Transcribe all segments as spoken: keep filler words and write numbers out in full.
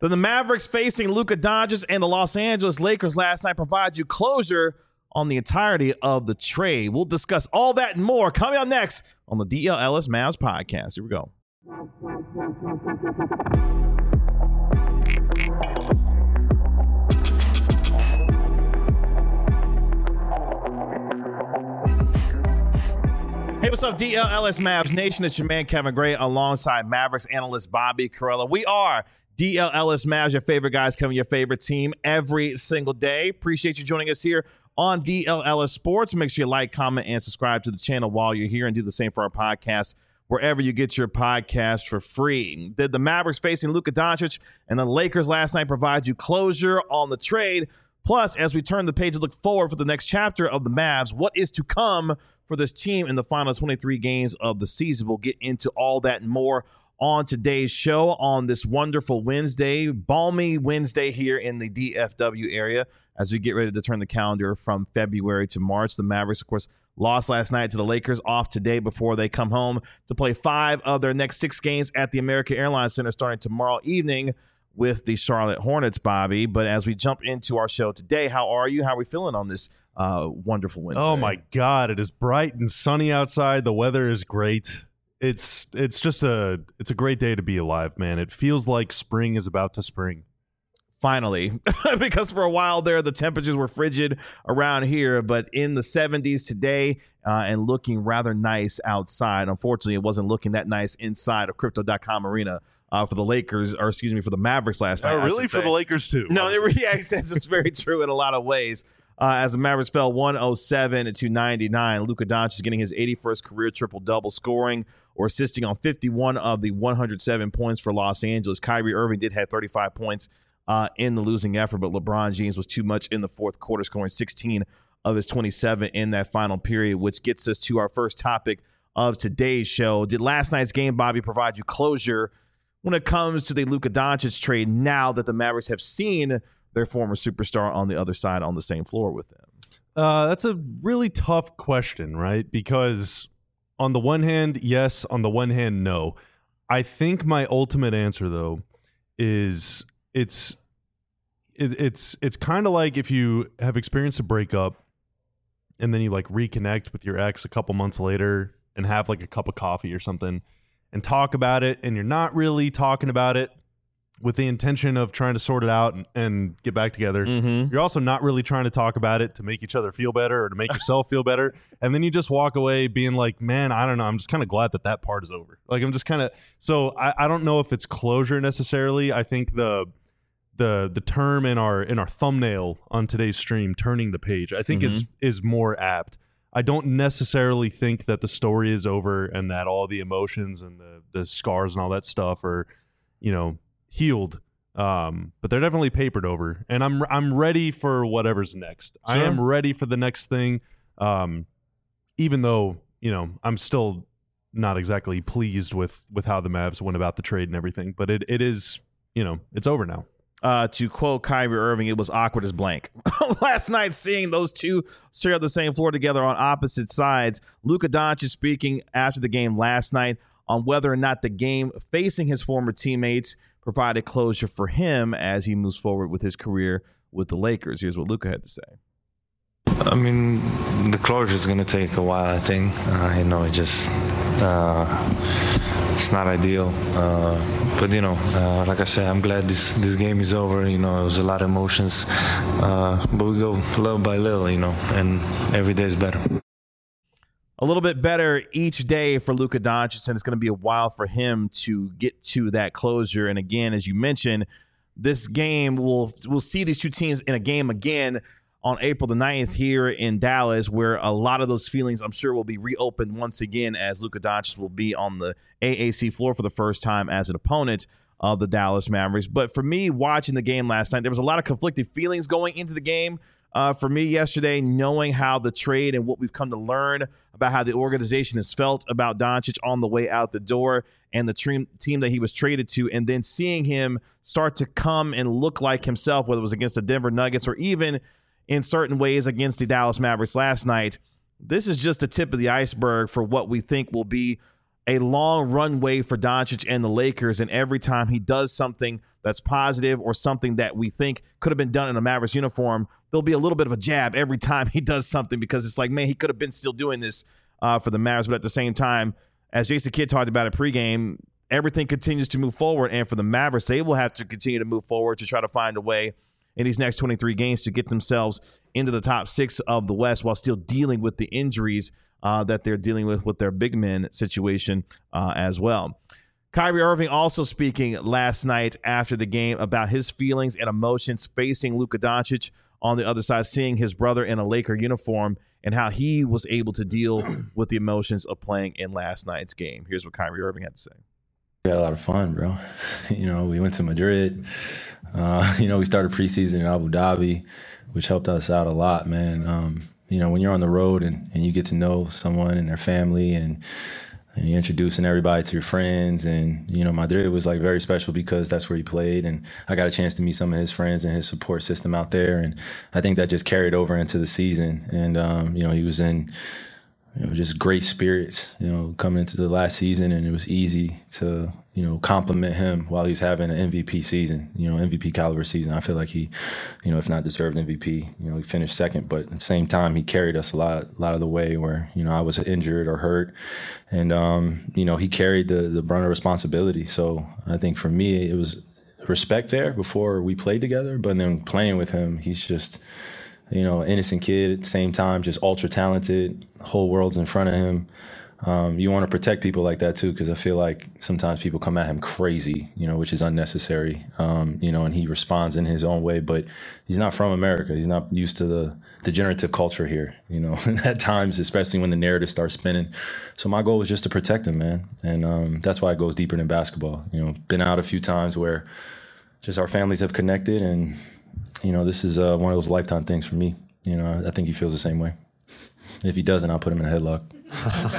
Then the Mavericks facing Luka Doncic and the Los Angeles Lakers last night provide you closure on the entirety of the trade. We'll discuss all that and more coming up next on the D L Ellis Mavs podcast. Here we go. Hey, what's up, D L Ellis Mavs Nation? It's your man, Kevin Gray, alongside Mavericks analyst Bobby Karalla. We are D L Ellis Mavs, your favorite guys covering your favorite team every single day. Appreciate you joining us here on D L Ellis Sports. Make sure you like, comment, and subscribe to the channel while you're here, and do the same for our podcast wherever you get your podcast for free. Did the Mavericks facing Luka Doncic and the Lakers last night provide you closure on the trade? Plus, as we turn the page and look forward for the next chapter of the Mavs, what is to come for this team in the final twenty-three games of the season? We'll get into all that and more on today's show on this wonderful Wednesday, balmy Wednesday here in the D F W area as we get ready to turn the calendar from February to March. The Mavericks, of course, lost last night to the Lakers, off today before they come home to play five of their next six games at the American Airlines Center starting tomorrow evening with the Charlotte Hornets, Bobby. But as we jump into our show today, how are you? How are we feeling on this uh, wonderful Wednesday? Oh, my God. It is bright and sunny outside. The weather is great. It's it's just a it's a great day to be alive, man. It feels like spring is about to spring. Finally, because for a while there, the temperatures were frigid around here, but in the seventies today uh, and looking rather nice outside. Unfortunately, it wasn't looking that nice inside of Crypto dot com Arena uh, for the Lakers, or excuse me, for the Mavericks last night. Oh, really? For the Lakers, too? No, it, yeah, it's, it's very true in a lot of ways. Uh, as the Mavericks fell one oh seven to ninety-nine, Luka Doncic is getting his eighty-first career triple-double, scoring or assisting on fifty-one of the one hundred seven points for Los Angeles. Kyrie Irving did have thirty-five points uh, in the losing effort, but LeBron James was too much in the fourth quarter, scoring sixteen of his twenty-seven in that final period, which gets us to our first topic of today's show. Did last night's game, Bobby, provide you closure when it comes to the Luka Doncic trade now that the Mavericks have seen their former superstar on the other side on the same floor with them? Uh, that's a really tough question, right? Because on the one hand, yes. On the one hand, no. I think my ultimate answer, though, is it's it, it's it's kind of like if you have experienced a breakup and then you like reconnect with your ex a couple months later and have like a cup of coffee or something and talk about it, and you're not really talking about it with the intention of trying to sort it out and, and get back together. Mm-hmm. You're also not really trying to talk about it to make each other feel better or to make yourself feel better. And then you just walk away being like, man, I don't know. I'm just kind of glad that that part is over. Like, I'm just kind of, so I, I don't know if it's closure necessarily. I think the, the, the term in our, in our thumbnail on today's stream, turning the page, I think Mm-hmm. is, is more apt. I don't necessarily think that the story is over and that all the emotions and the, the scars and all that stuff are, you know, healed, um, but they're definitely papered over, and I'm I'm ready for whatever's next. Sure. I am ready for the next thing, um, even though you know I'm still not exactly pleased with with how the Mavs went about the trade and everything. But it it is you know it's over now. Uh, to quote Kyrie Irving, it was awkward as blank. Last night, seeing those two straight on the same floor together on opposite sides. Luka Doncic speaking after the game last night on whether or not the game facing his former teammates provided closure for him as he moves forward with his career with the Lakers. Here's what Luka had to say. I mean, the closure is going to take a while, I think. Uh, you know, it just, uh, it's not ideal. Uh, but, you know, uh, like I said, I'm glad this, this game is over. You know, it was a lot of emotions. Uh, but we go little by little, you know, and every day is better. A little bit better each day for Luka Doncic, and it's going to be a while for him to get to that closure. And again, as you mentioned, this game, we'll, we'll see these two teams in a game again on April the ninth here in Dallas, where a lot of those feelings, I'm sure, will be reopened once again as Luka Doncic will be on the A A C floor for the first time as an opponent of the Dallas Mavericks. But for me, watching the game last night, there was a lot of conflicted feelings going into the game. Uh, for me yesterday, knowing how the trade and what we've come to learn about how the organization has felt about Doncic on the way out the door and the team, team that he was traded to, and then seeing him start to come and look like himself, whether it was against the Denver Nuggets or even in certain ways against the Dallas Mavericks last night. This is just the tip of the iceberg for what we think will be a long runway for Doncic and the Lakers, and every time he does something that's positive or something that we think could have been done in a Mavericks uniform, there'll be a little bit of a jab every time he does something because it's like, man, he could have been still doing this uh, for the Mavericks. But at the same time, as Jason Kidd talked about at pregame, everything continues to move forward. And for the Mavericks, they will have to continue to move forward to try to find a way in these next twenty-three games to get themselves into the top six of the West while still dealing with the injuries uh, that they're dealing with with their big men situation uh, as well. Kyrie Irving also speaking last night after the game about his feelings and emotions facing Luka Doncic on the other side, seeing his brother in a Laker uniform and how he was able to deal with the emotions of playing in last night's game. Here's what Kyrie Irving had to say. We had a lot of fun, bro. You know, we went to Madrid. Uh, you know, we started preseason in Abu Dhabi, which helped us out a lot, man. Um, you know, when you're on the road and, and you get to know someone and their family and and you're introducing everybody to your friends. And, you know, Madrid was like very special because that's where he played. And I got a chance to meet some of his friends and his support system out there. And I think that just carried over into the season. And, um, you know, he was in, you know, just great spirits, you know, coming into the last season. And it was easy to, you know, compliment him while he's having an M V P season, you know, M V P caliber season. I feel like he, you know, if not deserved M V P, you know, he finished second, but at the same time, he carried us a lot, a lot of the way where, you know, I was injured or hurt. And, um, you know, he carried the, the brunt of responsibility. So I think for me, it was respect there before we played together, but then playing with him, he's just, you know, innocent kid at the same time, just ultra talented, whole world's in front of him. Um, you want to protect people like that too, because I feel like sometimes people come at him crazy, you know, which is unnecessary, um, you know, and he responds in his own way, but he's not from America. He's not used to the degenerative culture here, you know, at times, especially when the narrative starts spinning. So my goal was just to protect him, man. And um, that's why it goes deeper than basketball. You know, been out a few times where just our families have connected, and, you know, this is uh, one of those lifetime things for me. You know, I think he feels the same way. If he doesn't, I'll put him in a headlock.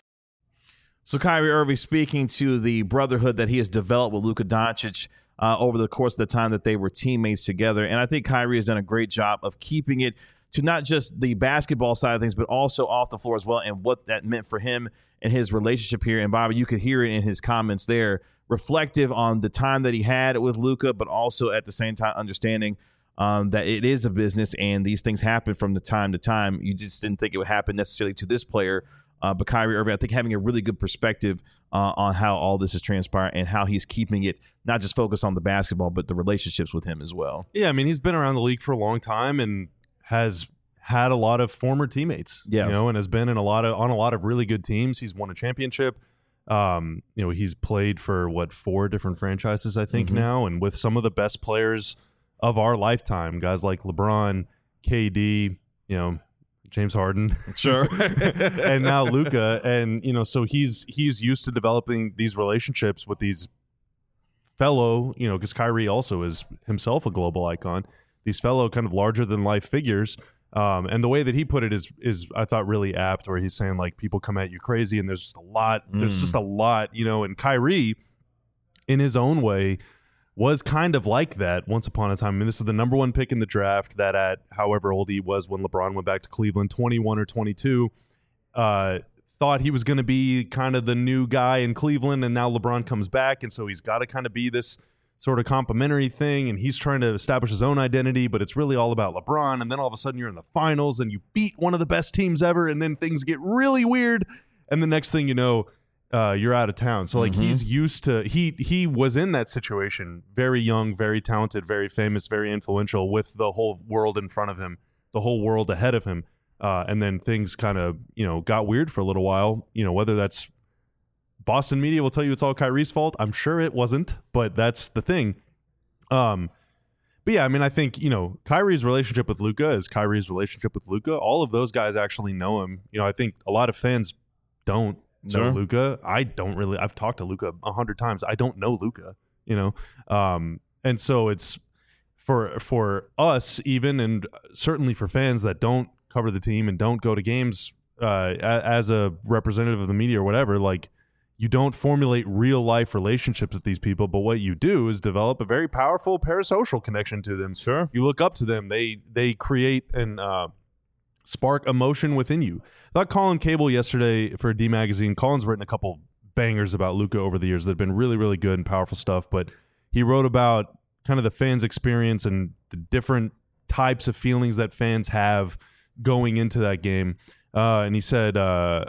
So Kyrie Irving speaking to the brotherhood that he has developed with Luka Doncic uh, over the course of the time that they were teammates together. And I think Kyrie has done a great job of keeping it to not just the basketball side of things, but also off the floor as well, and what that meant for him and his relationship here. And Bobby, you could hear it in his comments there, reflective on the time that he had with Luka, but also at the same time understanding um, that it is a business and these things happen from the time to time. You just didn't think it would happen necessarily to this player. Uh, but Kyrie Irving, I think, having a really good perspective uh, on how all this is transpiring and how he's keeping it not just focused on the basketball, but the relationships with him as well. Yeah, I mean, he's been around the league for a long time and has had a lot of former teammates, yes. you know, and has been in a lot of on a lot of really good teams. He's won a championship. Um, you know, he's played for what four different franchises, I think, mm-hmm. now, and with some of the best players of our lifetime, guys like LeBron, K D, you know. James Harden, sure, and now Luka, and you know, so he's he's used to developing these relationships with these fellow, you know, because Kyrie also is himself a global icon. These fellow kind of larger than life figures, um, and the way that he put it is is I thought really apt, where he's saying like people come at you crazy, and there's just a lot, mm. there's just a lot, you know, and Kyrie, in his own way, was kind of like that once upon a time. I mean, this is the number one pick in the draft that at however old he was when LeBron went back to Cleveland, twenty-one or twenty-two, uh, thought he was going to be kind of the new guy in Cleveland, and now LeBron comes back, and so he's got to kind of be this sort of complimentary thing, and he's trying to establish his own identity, but it's really all about LeBron, and then all of a sudden you're in the finals, and you beat one of the best teams ever, and then things get really weird, and the next thing you know, Uh, you're out of town. So like mm-hmm. he's used to he he was in that situation, very young, very talented, very famous, very influential, with the whole world in front of him, the whole world ahead of him. Uh, and then things kind of, you know, got weird for a little while. You know, whether that's Boston media will tell you it's all Kyrie's fault. I'm sure it wasn't, but that's the thing. Um, but yeah, I mean, I think, you know, Kyrie's relationship with Luka is Kyrie's relationship with Luka. All of those guys actually know him. You know, I think a lot of fans don't. So sure. Luka, I don't really. I've talked to Luka a hundred times. I don't know Luka, you know, um, and so it's for for us even, and certainly for fans that don't cover the team and don't go to games uh, as a representative of the media or whatever. Like, you don't formulate real life relationships with these people, but what you do is develop a very powerful parasocial connection to them. Sure, you look up to them. They they create an uh, spark emotion within you. I thought Colin Cable yesterday for D Magazine, Colin's written a couple bangers about Luka over the years that have been really, really good and powerful stuff, but he wrote about kind of the fans' experience and the different types of feelings that fans have going into that game. Uh, and he said uh,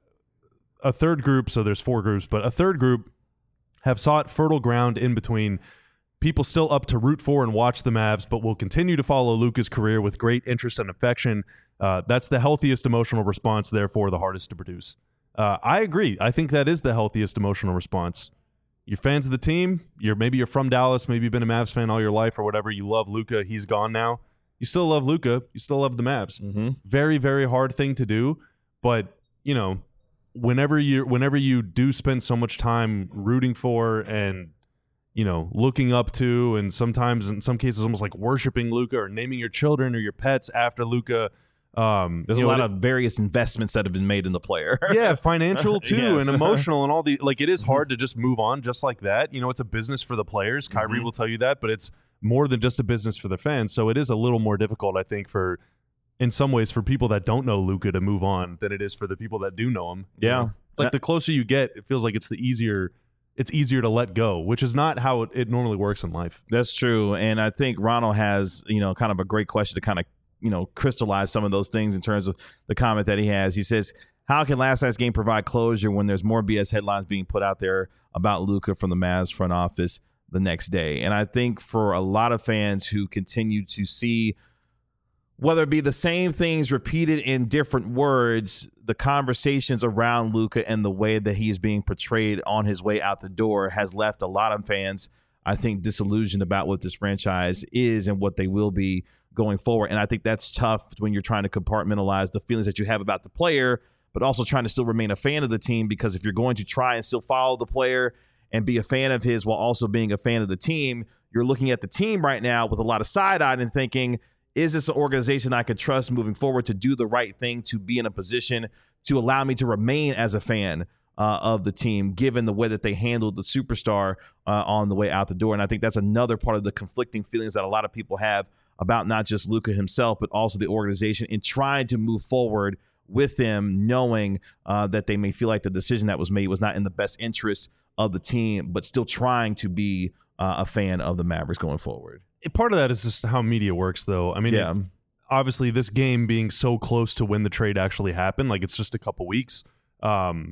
a third group, so there's four groups, but a third group have sought fertile ground in between people still up to root for and watch the Mavs, but will continue to follow Luka's career with great interest and affection. Uh, that's the healthiest emotional response, therefore the hardest to produce. Uh, I agree. I think that is the healthiest emotional response. You're fans of the team. You're maybe you're from Dallas. Maybe you've been a Mavs fan all your life or whatever. You love Luka. He's gone now. You still love Luka. You still love the Mavs. Mm-hmm. Very, very hard thing to do. But, you know, whenever you whenever you do spend so much time rooting for and, you know, looking up to, and sometimes in some cases almost like worshiping Luka or naming your children or your pets after Luka. Um, There's a know, lot it, of various investments that have been made in the player. yeah, financial too, Yes. and emotional, and all the like. It is hard to just move on just like that. You know, it's a business for the players. Kyrie Mhm. will tell you that, but it's more than just a business for the fans. So it is a little more difficult, I think, for in some ways for people that don't know Luka to move on than it is for the people that do know him. You Yeah. know? It's like the closer you get, it feels like it's the easier. It's easier to let go, which is not how it, it normally works in life. That's true. And I think Ronald has, you know, kind of a great question to kind of, you know, crystallize some of those things in terms of the comment that he has. He says, how can last night's game provide closure when there's more B S headlines being put out there about Luka from the Mavs front office the next day? And I think for a lot of fans who continue to see, whether it be the same things repeated in different words, the conversations around Luka and the way that he's being portrayed on his way out the door has left a lot of fans, I think, disillusioned about what this franchise is and what they will be going forward. And I think that's tough when you're trying to compartmentalize the feelings that you have about the player, but also trying to still remain a fan of the team, because if you're going to try and still follow the player and be a fan of his while also being a fan of the team, you're looking at the team right now with a lot of side-eye and thinking, is this an organization I could trust moving forward to do the right thing, to be in a position to allow me to remain as a fan uh, of the team, given the way that they handled the superstar uh, on the way out the door? And I think that's another part of the conflicting feelings that a lot of people have about not just Luka himself, but also the organization, in trying to move forward with them, knowing uh, that they may feel like the decision that was made was not in the best interest of the team, but still trying to be uh, a fan of the Mavericks going forward. Part of that is just how media works, though. I mean, Yeah. it- obviously, this game being so close to when the trade actually happened, like it's just a couple weeks, um,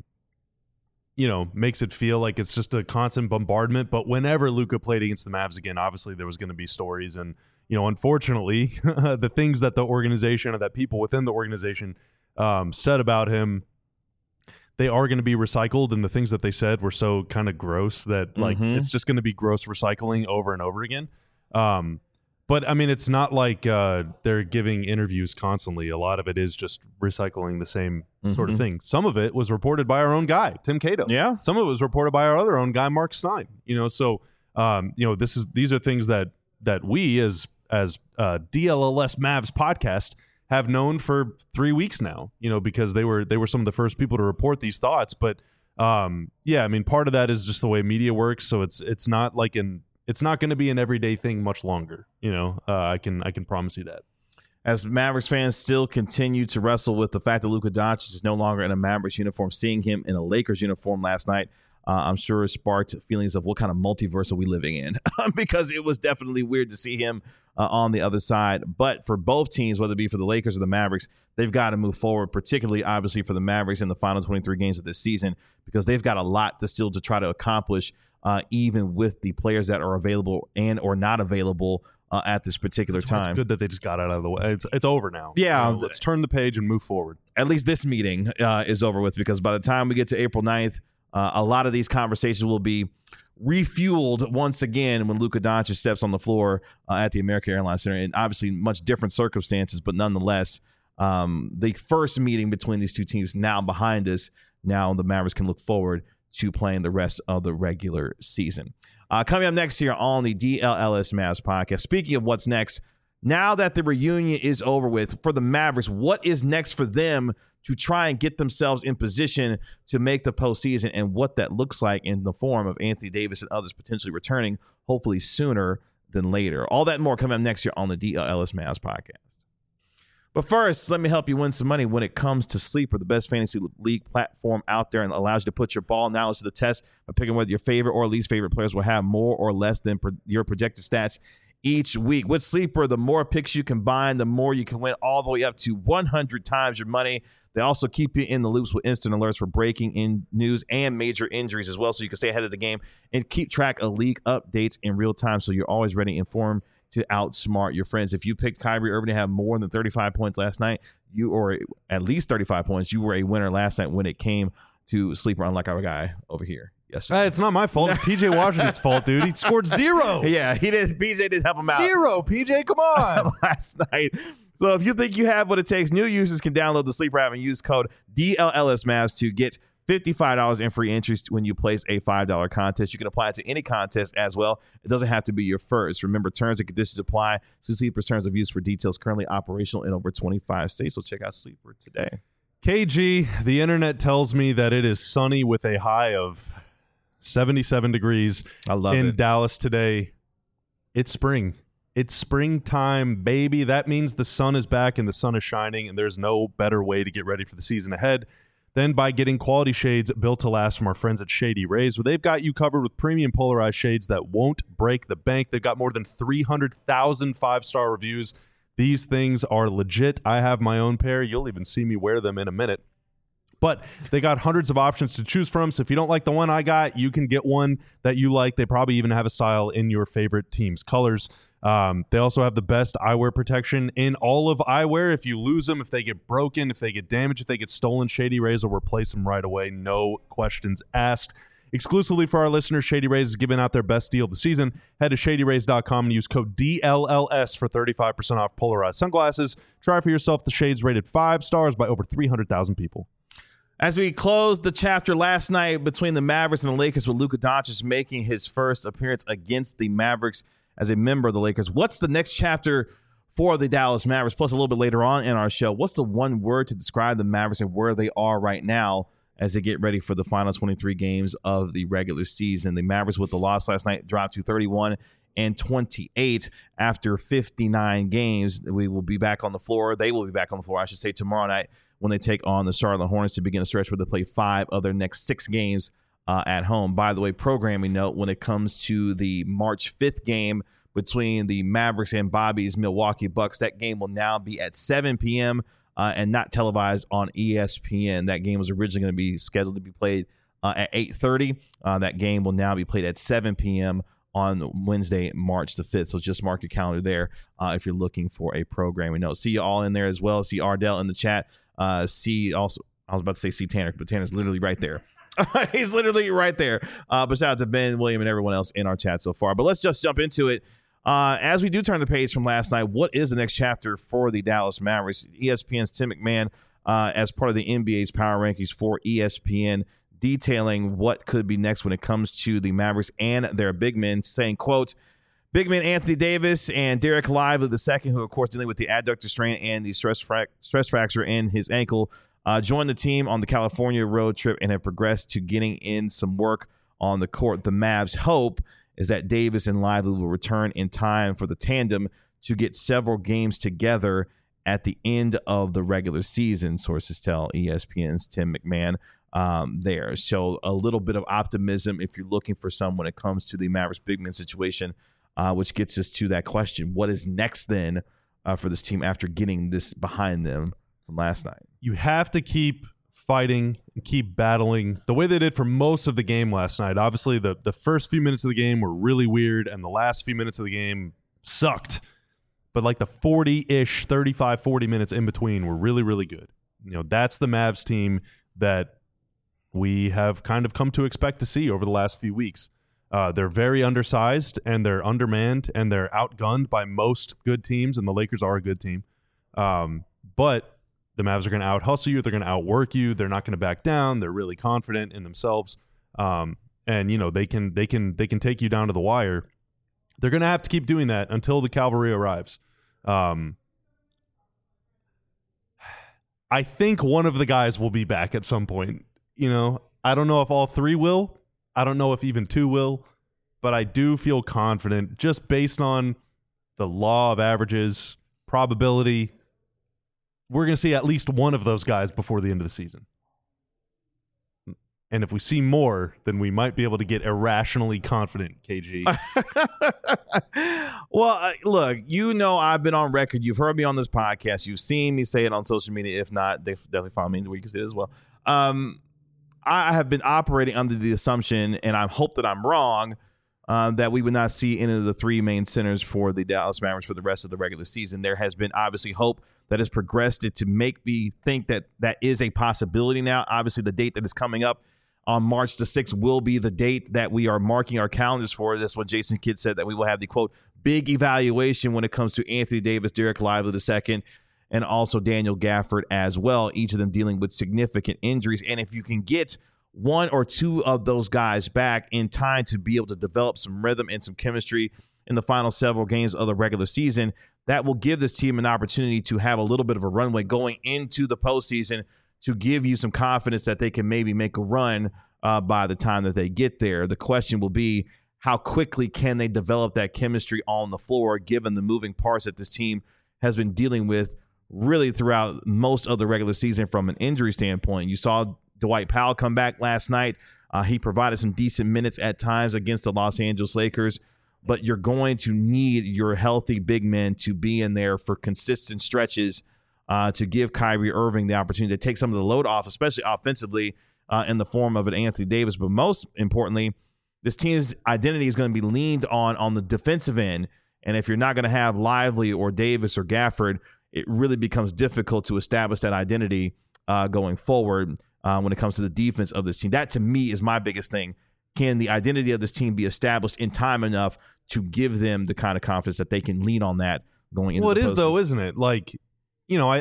you know, makes it feel like it's just a constant bombardment. But whenever Luka played against the Mavs again, obviously there was going to be stories. And, you know, unfortunately, the things that the organization or that people within the organization um, said about him, they are going to be recycled. And the things that they said were so kind of gross that, like, Mhm. it's just going to be gross recycling over and over again. Um, but I mean, it's not like uh, they're giving interviews constantly. A lot of it is just recycling the same sort of Mhm. thing. Some of it was reported by our own guy, Tim Cato. Yeah. Some of it was reported by our other own guy, Mark Stein. You know, so um, you know, this is these are things that that we as as uh, D L L S Mavs podcast have known for three weeks now. You know, because they were they were some of the first people to report these thoughts. But um, yeah, I mean, part of that is just the way media works. So it's it's not like an It's not going to be an everyday thing much longer, you know. Uh, I can I can promise you that. As Mavericks fans still continue to wrestle with the fact that Luka Doncic is no longer in a Mavericks uniform, seeing him in a Lakers uniform last night, uh, I'm sure it sparked feelings of what kind of multiverse are we living in, because it was definitely weird to see him uh, on the other side. But for both teams, whether it be for the Lakers or the Mavericks, they've got to move forward, particularly obviously for the Mavericks in the final twenty-three games of this season, because they've got a lot to still to try to accomplish, uh, even with the players that are available and or not available uh, at this particular It's, time. it's good that they just got it out of the way. It's it's over now. Yeah. You know, let's turn the page and move forward. At least this meeting uh, is over with, because by the time we get to April ninth, uh, a lot of these conversations will be refueled once again when Luka Doncic steps on the floor uh, at the American Airlines Center, and obviously much different circumstances, but nonetheless, um, the first meeting between these two teams now behind us. Now the Mavericks can look forward to playing the rest of the regular season. Uh, coming up next here on the D L L S Mavs podcast. Speaking of what's next, now that the reunion is over with for the Mavericks, what is next for them to try and get themselves in position to make the postseason, and what that looks like in the form of Anthony Davis and others potentially returning, hopefully sooner than later. All that and more coming up next year on the D L L S Mavs podcast. But first, let me help you win some money when it comes to Sleeper, the best fantasy league platform out there, and allows you to put your ball knowledge to the test by picking whether your favorite or least favorite players will have more or less than pro- your projected stats each week. With Sleeper, the more picks you combine, the more you can win, all the way up to one hundred times your money. They also keep you in the loops with instant alerts for breaking in news and major injuries as well, so you can stay ahead of the game and keep track of league updates in real time, so you're always ready and informed to outsmart your friends. If you picked Kyrie Irving to have more than thirty-five points last night, you or at least thirty-five points, you were a winner last night when it came to Sleeper, unlike our guy over here. Yes, uh, it's not my fault. It's P J Washington's fault, dude. He scored zero. Yeah, he did. P J did help him out. Zero, P J. Come on. last night. So if you think you have what it takes, new users can download the Sleeper app and use code D L L S Mavs to get fifty-five dollars in free entries when you place a five dollar contest. You can apply it to any contest as well. It doesn't have to be your first. Remember, terms and conditions apply. So Sleeper's terms of use for details currently operational in over twenty-five states. So check out Sleeper today. K G, the internet tells me that it is sunny with a high of seventy-seven degrees I love in it. Dallas today. It's spring. It's springtime, baby. That means the sun is back and the sun is shining, and there's no better way to get ready for the season ahead than by getting quality shades built to last from our friends at Shady Rays, where they've got you covered with premium polarized shades that won't break the bank. They've got more than three hundred thousand five-star reviews. These things are legit. I have my own pair. You'll even see me wear them in a minute. But they got hundreds of options to choose from, so if you don't like the one I got, you can get one that you like. They probably even have a style in your favorite team's colors. Um, they also have the best eyewear protection in all of eyewear. If you lose them, if they get broken, if they get damaged, if they get stolen, Shady Rays will replace them right away. No questions asked. Exclusively for our listeners, Shady Rays is giving out their best deal of the season. Head to shady rays dot com and use code D L L S for thirty-five percent off polarized sunglasses. Try for yourself the shades rated five stars by over three hundred thousand people. As we closed the chapter last night between the Mavericks and the Lakers, with Luka Doncic making his first appearance against the Mavericks as a member of the Lakers, what's the next chapter for the Dallas Mavericks? Plus, a little bit later on in our show, what's the one word to describe the Mavericks and where they are right now as they get ready for the final twenty-three games of the regular season? The Mavericks, with the loss last night, dropped to thirty-one and twenty-eight after fifty-nine games. We will be back on the floor. They will be back on the floor, I should say, tomorrow night when they take on the Charlotte Hornets to begin a stretch where they play five of their next six games uh, at home. By the way, programming note, when it comes to the March fifth game between the Mavericks and Bobby's Milwaukee Bucks, that game will now be at seven p.m. Uh, and not televised on E S P N. That game was originally going to be scheduled to be played uh, at eight thirty. Uh, that game will now be played at seven p.m. on Wednesday, March the fifth. So just mark your calendar there uh, if you're looking for a programming note. See you all in there as well. See Ardell in the chat. Uh, see also, I was about to say see Tanner, but Tanner's literally right there. He's literally right there. Uh, but shout out to Ben, William, and everyone else in our chat so far. But let's just jump into it. Uh, as we do turn the page from last night, what is the next chapter for the Dallas Mavericks? E S P N's Tim McMahon, uh, as part of the N B A's Power Rankings for E S P N, detailing what could be next when it comes to the Mavericks and their big men, saying, quote, big men Anthony Davis and Derek Lively the second, who, of course, dealing with the adductor strain and the stress, frac- stress fracture in his ankle, uh, joined the team on the California road trip and have progressed to getting in some work on the court. The Mavs' hope is that Davis and Lively will return in time for the tandem to get several games together at the end of the regular season, sources tell E S P N's Tim McMahon um, there. So a little bit of optimism if you're looking for some when it comes to the Mavericks big man situation, uh, which gets us to that question. What is next then uh, for this team after getting this behind them from last night? You have to keep fighting and keep battling the way they did for most of the game last night. Obviously, the, the first few minutes of the game were really weird, and the last few minutes of the game sucked. But like the forty-ish, thirty-five, forty minutes in between were really, really good. You know, that's the Mavs team that we have kind of come to expect to see over the last few weeks. Uh, they're very undersized, and they're undermanned, and they're outgunned by most good teams, and the Lakers are a good team. Um, but the Mavs are going to out-hustle you. They're going to outwork you. They're not going to back down. They're really confident in themselves. Um, and, you know, they can they can, they can take you down to the wire. They're going to have to keep doing that until the cavalry arrives. Um, I think one of the guys will be back at some point. You know, I don't know if all three will. I don't know if even two will. But I do feel confident just based on the law of averages, probability, we're going to see at least one of those guys before the end of the season. And if we see more, then we might be able to get irrationally confident, K G. Well, uh, look, you know I've been on record. You've heard me on this podcast. You've seen me say it on social media. If not, they definitely follow me where you can see it as well. Um, I have been operating under the assumption, and I hope that I'm wrong, uh, that we would not see any of the three main centers for the Dallas Mavericks for the rest of the regular season. There has been obviously hope that has progressed it to make me think that that is a possibility now. Obviously, the date that is coming up on March the sixth will be the date that we are marking our calendars for. That's what Jason Kidd said, that we will have the, quote, big evaluation when it comes to Anthony Davis, Derek Lively the second, and also Daniel Gafford as well, each of them dealing with significant injuries. And if you can get one or two of those guys back in time to be able to develop some rhythm and some chemistry in the final several games of the regular season, that will give this team an opportunity to have a little bit of a runway going into the postseason to give you some confidence that they can maybe make a run uh, by the time that they get there. The question will be, how quickly can they develop that chemistry on the floor, given the moving parts that this team has been dealing with really throughout most of the regular season from an injury standpoint. You saw Dwight Powell come back last night. Uh, he provided some decent minutes at times against the Los Angeles Lakers, but you're going to need your healthy big men to be in there for consistent stretches Uh, to give Kyrie Irving the opportunity to take some of the load off, especially offensively uh, in the form of an Anthony Davis. But most importantly, this team's identity is going to be leaned on on the defensive end. And if you're not going to have Lively or Davis or Gafford, it really becomes difficult to establish that identity uh, going forward uh, when it comes to the defense of this team. That, to me, is my biggest thing. Can the identity of this team be established in time enough to give them the kind of confidence that they can lean on that going into well, the Well, it is, though, postseason? isn't it? Like, you know, I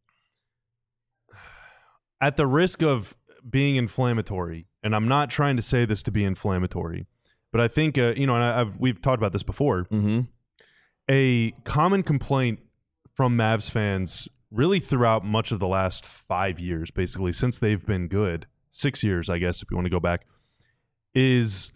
at the risk of being inflammatory, and I'm not trying to say this to be inflammatory, but I think, uh, you know, and I, I've, we've talked about this before, Mm-hmm. a common complaint from Mavs fans really throughout much of the last five years, basically, since they've been good, six years, I guess, if you want to go back, is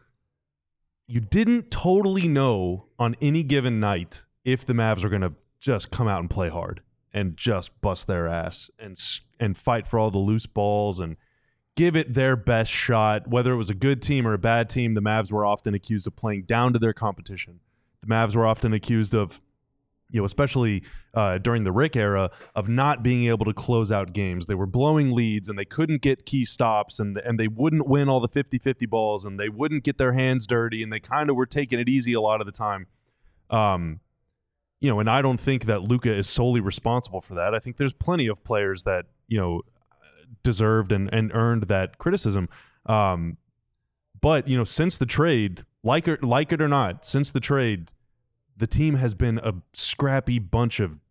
you didn't totally know on any given night if the Mavs are going to just come out and play hard and just bust their ass and and fight for all the loose balls and give it their best shot. Whether it was a good team or a bad team, the Mavs were often accused of playing down to their competition. The Mavs were often accused of, you know, especially uh, during the Rick era, of not being able to close out games. They were blowing leads and they couldn't get key stops, and and they wouldn't win all the fifty-fifty balls, and they wouldn't get their hands dirty, and they kind of were taking it easy a lot of the time. Um, You know, and I don't think that Luka is solely responsible for that. I think there's plenty of players that, you know, deserved and, and earned that criticism. Um, but, you know, since the trade, like it, like it or not, since the trade, the team has been a scrappy bunch of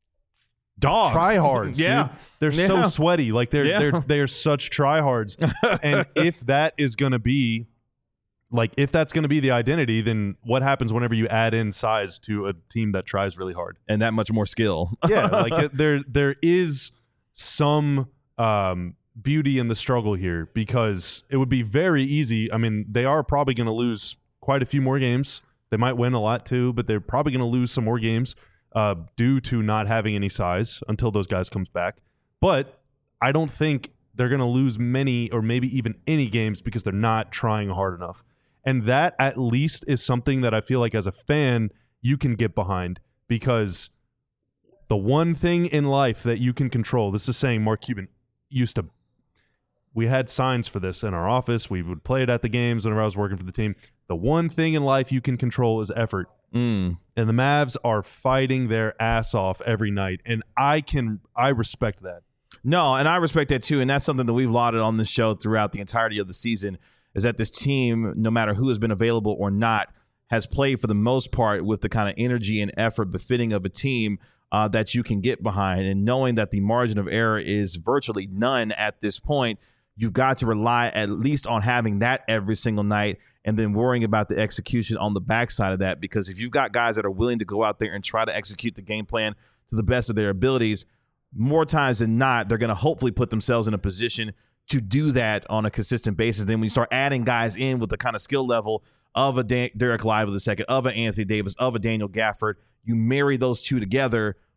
Dogs. tryhards. Yeah. Dude. They're Yeah. so sweaty. Like they're Yeah. they're they're such tryhards. And if that is going to be Like, if that's going to be the identity, then what happens whenever you add in size to a team that tries really hard? And that much more skill. Yeah, like it, there there is some um, beauty in the struggle here, because it would be very easy. I mean, they are probably going to lose quite a few more games. They might win a lot too, but they're probably going to lose some more games uh, due to not having any size until those guys comes back. But I don't think they're going to lose many or maybe even any games because they're not trying hard enough. And that at least is something that I feel like as a fan you can get behind, because the one thing in life that you can control, this is saying Mark Cuban used to, we had signs for this in our office. We would play it at the games whenever I was working for the team. The one thing in life you can control is effort. Mm. And the Mavs are fighting their ass off every night. And I can, I respect that. No, and I respect that too. And that's something that we've lauded on this show throughout the entirety of the season, is that this team, no matter who has been available or not, has played for the most part with the kind of energy and effort befitting of a team uh, that you can get behind. And knowing that the margin of error is virtually none at this point, you've got to rely at least on having that every single night, and then worrying about the execution on the backside of that. Because if you've got guys that are willing to go out there and try to execute the game plan to the best of their abilities, more times than not, they're going to hopefully put themselves in a position to do that on a consistent basis. Then when you start adding guys in with the kind of skill level of a Dan- Derek Lively the second, of an Anthony Davis, of a Daniel Gafford, you marry those two together,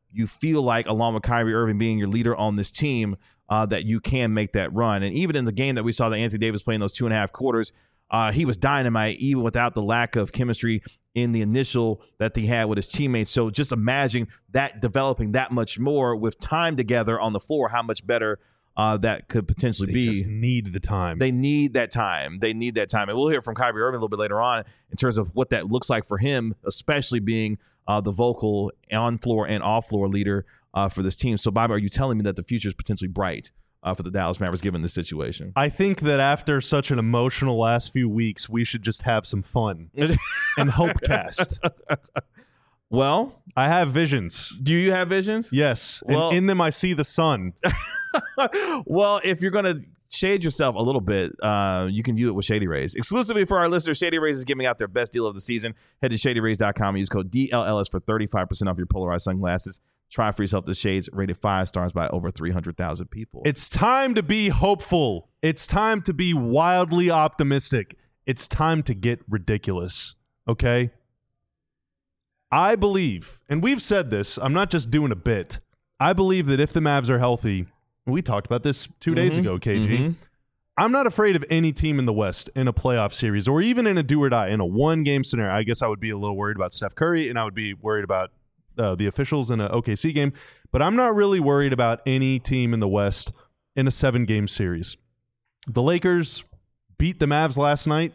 you feel like, along with Kyrie Irving being your leader on this team, uh, that you can make that run. And even in the game that we saw that Anthony Davis playing those two and a half quarters, uh, he was dynamite, even without the lack of chemistry in the initial that he had with his teammates. So just imagine that developing that much more with time together on the floor, how much better uh, that could potentially They be. just need the time. They need that time. They need that time. And we'll hear from Kyrie Irving a little bit later on in terms of what that looks like for him, especially being uh, the vocal on-floor and off-floor leader uh, for this team. So, Bobby, are you telling me that the future is potentially bright uh, for the Dallas Mavericks given this situation? I think that after such an emotional last few weeks, we should just have some fun and hope cast. Well, I have visions. do you have visions? Yes. Well- and in them, I see the sun. Well, if you're going to shade yourself a little bit, uh, you can do it with Shady Rays. Exclusively for our listeners, Shady Rays is giving out their best deal of the season. Head to shady rays dot com and use code D L L S for thirty-five percent off your polarized sunglasses. Try for yourself the shades, rated five stars by over three hundred thousand people. It's time to be hopeful. It's time to be wildly optimistic. It's time to get ridiculous. Okay? I believe, and we've said this, I'm not just doing a bit. I believe that if the Mavs are healthy, we talked about this two days Mm-hmm. ago, K G. Mhm. I'm not afraid of any team in the West in a playoff series or even in a do or die, in a one-game scenario. I guess I would be a little worried about Steph Curry, and I would be worried about uh, the officials in an O K C game. But I'm not really worried about any team in the West in a seven-game series. The Lakers beat the Mavs last night.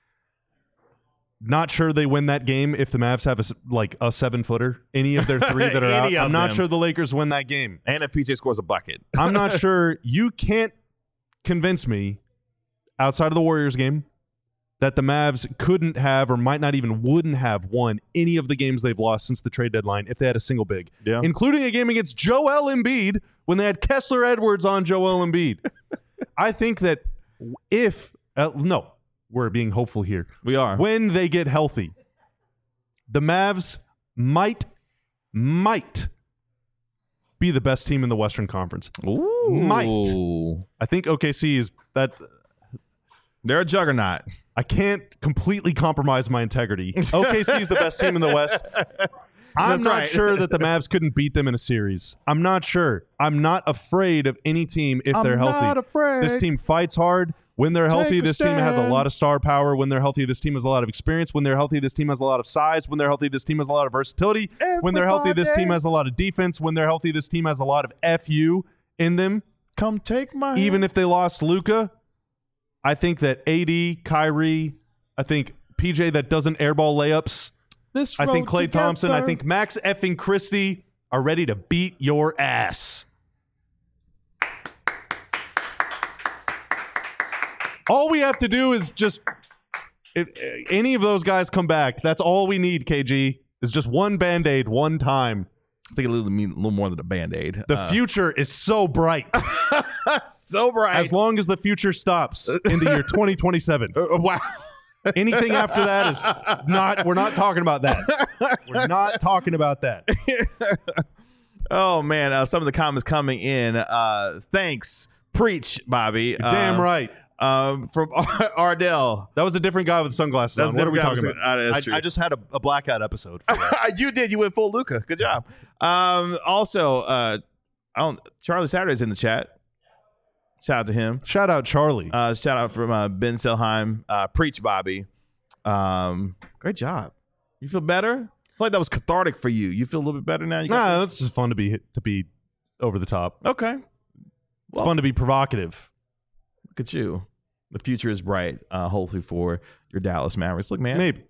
Not sure they win that game if the Mavs have a, s- like a seven-footer. Any of their three that are out. Any of I'm not them. sure the Lakers win that game. And if P J scores a bucket. I'm not sure. You can't convince me outside of the Warriors game that the Mavs couldn't have or might not even wouldn't have won any of the games they've lost since the trade deadline if they had a single big, Yeah. including a game against Joel Embiid when they had Kessler Edwards on Joel Embiid. I think that if uh, no, we're being hopeful here. We are. When they get healthy, the Mavs might might be the best team in the Western Conference. Ooh. Might. I think O K C is that. They're a juggernaut. I can't completely compromise my integrity. O K C is the best team in the West. I'm That's not right. sure that the Mavs couldn't beat them in a series. I'm not sure. I'm not afraid of any team if they're healthy. not afraid. This team fights hard. When they're healthy, a this team has a stand. lot of star power. When they're healthy, this team has a lot of experience. When they're healthy, this team has a lot of size. When they're healthy, this team has a lot of versatility. When they're healthy, this team has a lot of defense. When they're healthy, this team has a lot of F U in them. Come take my Even if they lost Luka, I think that A D, Kyrie, I think P J that doesn't airball layups, this I think road Klay Thompson, I together. think Max effing Christie are ready to beat your ass. All we have to do is just if any of those guys come back, that's all we need, K G, is just one Band-Aid one time. I think a little, mean, a little more than a Band-Aid. The Uh, future is so bright. so bright. As long as the future stops in the year twenty twenty-seven. Uh, wow. Anything after that is not, we're not talking about that. We're not talking about that. Oh, man. Uh, some of the comments coming in. Uh, thanks. Preach, Bobby. Damn Uh, right. Um, from Ardell. That was a different guy with sunglasses That's on. What a are we different talking guy with- about? uh, that's I, true. I just had a, a blackout episode. For that. You did. You went full Luca. Good job. Um, also, uh, I don't, Charlie Saturday's in the chat. Shout out to him. Shout out Charlie. Uh, shout out from uh, Ben Selheim. Uh, preach, Bobby. Um, great job. You feel better? I feel like that was cathartic for you. You feel a little bit better now? You got nah, it's just fun to be to be over the top. Okay. It's Well- fun to be provocative. Look at you. The future is bright, uh, hopefully, for your Dallas Mavericks. Look, man. Maybe.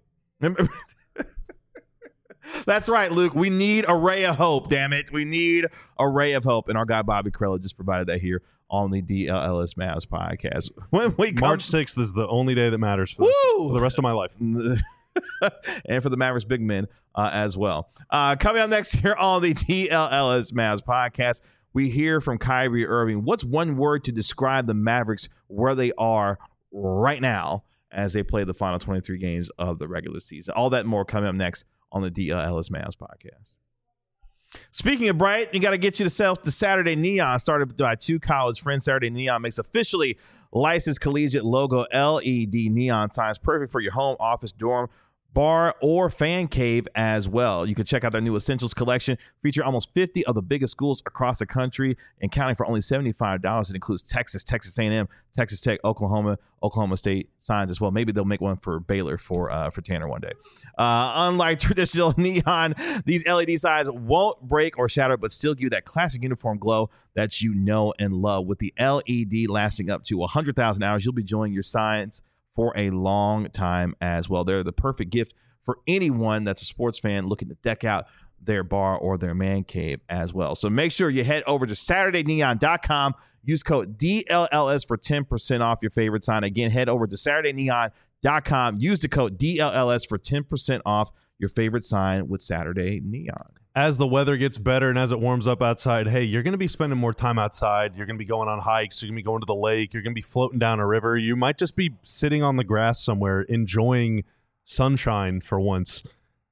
That's right, Luke. We need a ray of hope, damn it. We need a ray of hope. And our guy, Bobby Corella, just provided that here on the D L L S Mavs podcast. When we come, March sixth is the only day that matters for, the, Woo! for the rest of my life. and for the Mavericks big men uh, as well. Uh, coming up next here on the D L L S Mavs podcast, we hear from Kyrie Irving. What's one word to describe the Mavericks where they are right now as they play the final twenty-three games of the regular season? All that and more coming up next on the D L L S Mavs podcast. Speaking of bright, you got to get yourself the Saturday Neon, started by two college friends. Saturday Neon makes officially licensed collegiate logo L E D neon signs, perfect for your home, office, dorm, bar, or fan cave as well. You can check out their new Essentials collection, featuring almost fifty of the biggest schools across the country and counting for only seventy-five dollars. It includes Texas, Texas A and M, Texas Tech, Oklahoma, Oklahoma State signs as well. Maybe they'll make one for Baylor for uh, for Tanner one day. Uh, unlike traditional neon, these L E D signs won't break or shatter, but still give you that classic uniform glow that you know and love. With the L E D lasting up to one hundred thousand hours, you'll be enjoying your signs for a long time as well. They're the perfect gift for anyone that's a sports fan looking to deck out their bar or their man cave as well. So make sure you head over to Saturday Neon dot com. Use code D L L S for ten percent off your favorite sign. Again, head over to Saturday Neon dot com. Use the code D L L S for ten percent off your favorite sign with Saturday Neon. As the weather gets better and as it warms up outside, hey, you're going to be spending more time outside. You're going to be going on hikes. You're going to be going to the lake. You're going to be floating down a river. You might just be sitting on the grass somewhere enjoying sunshine for once.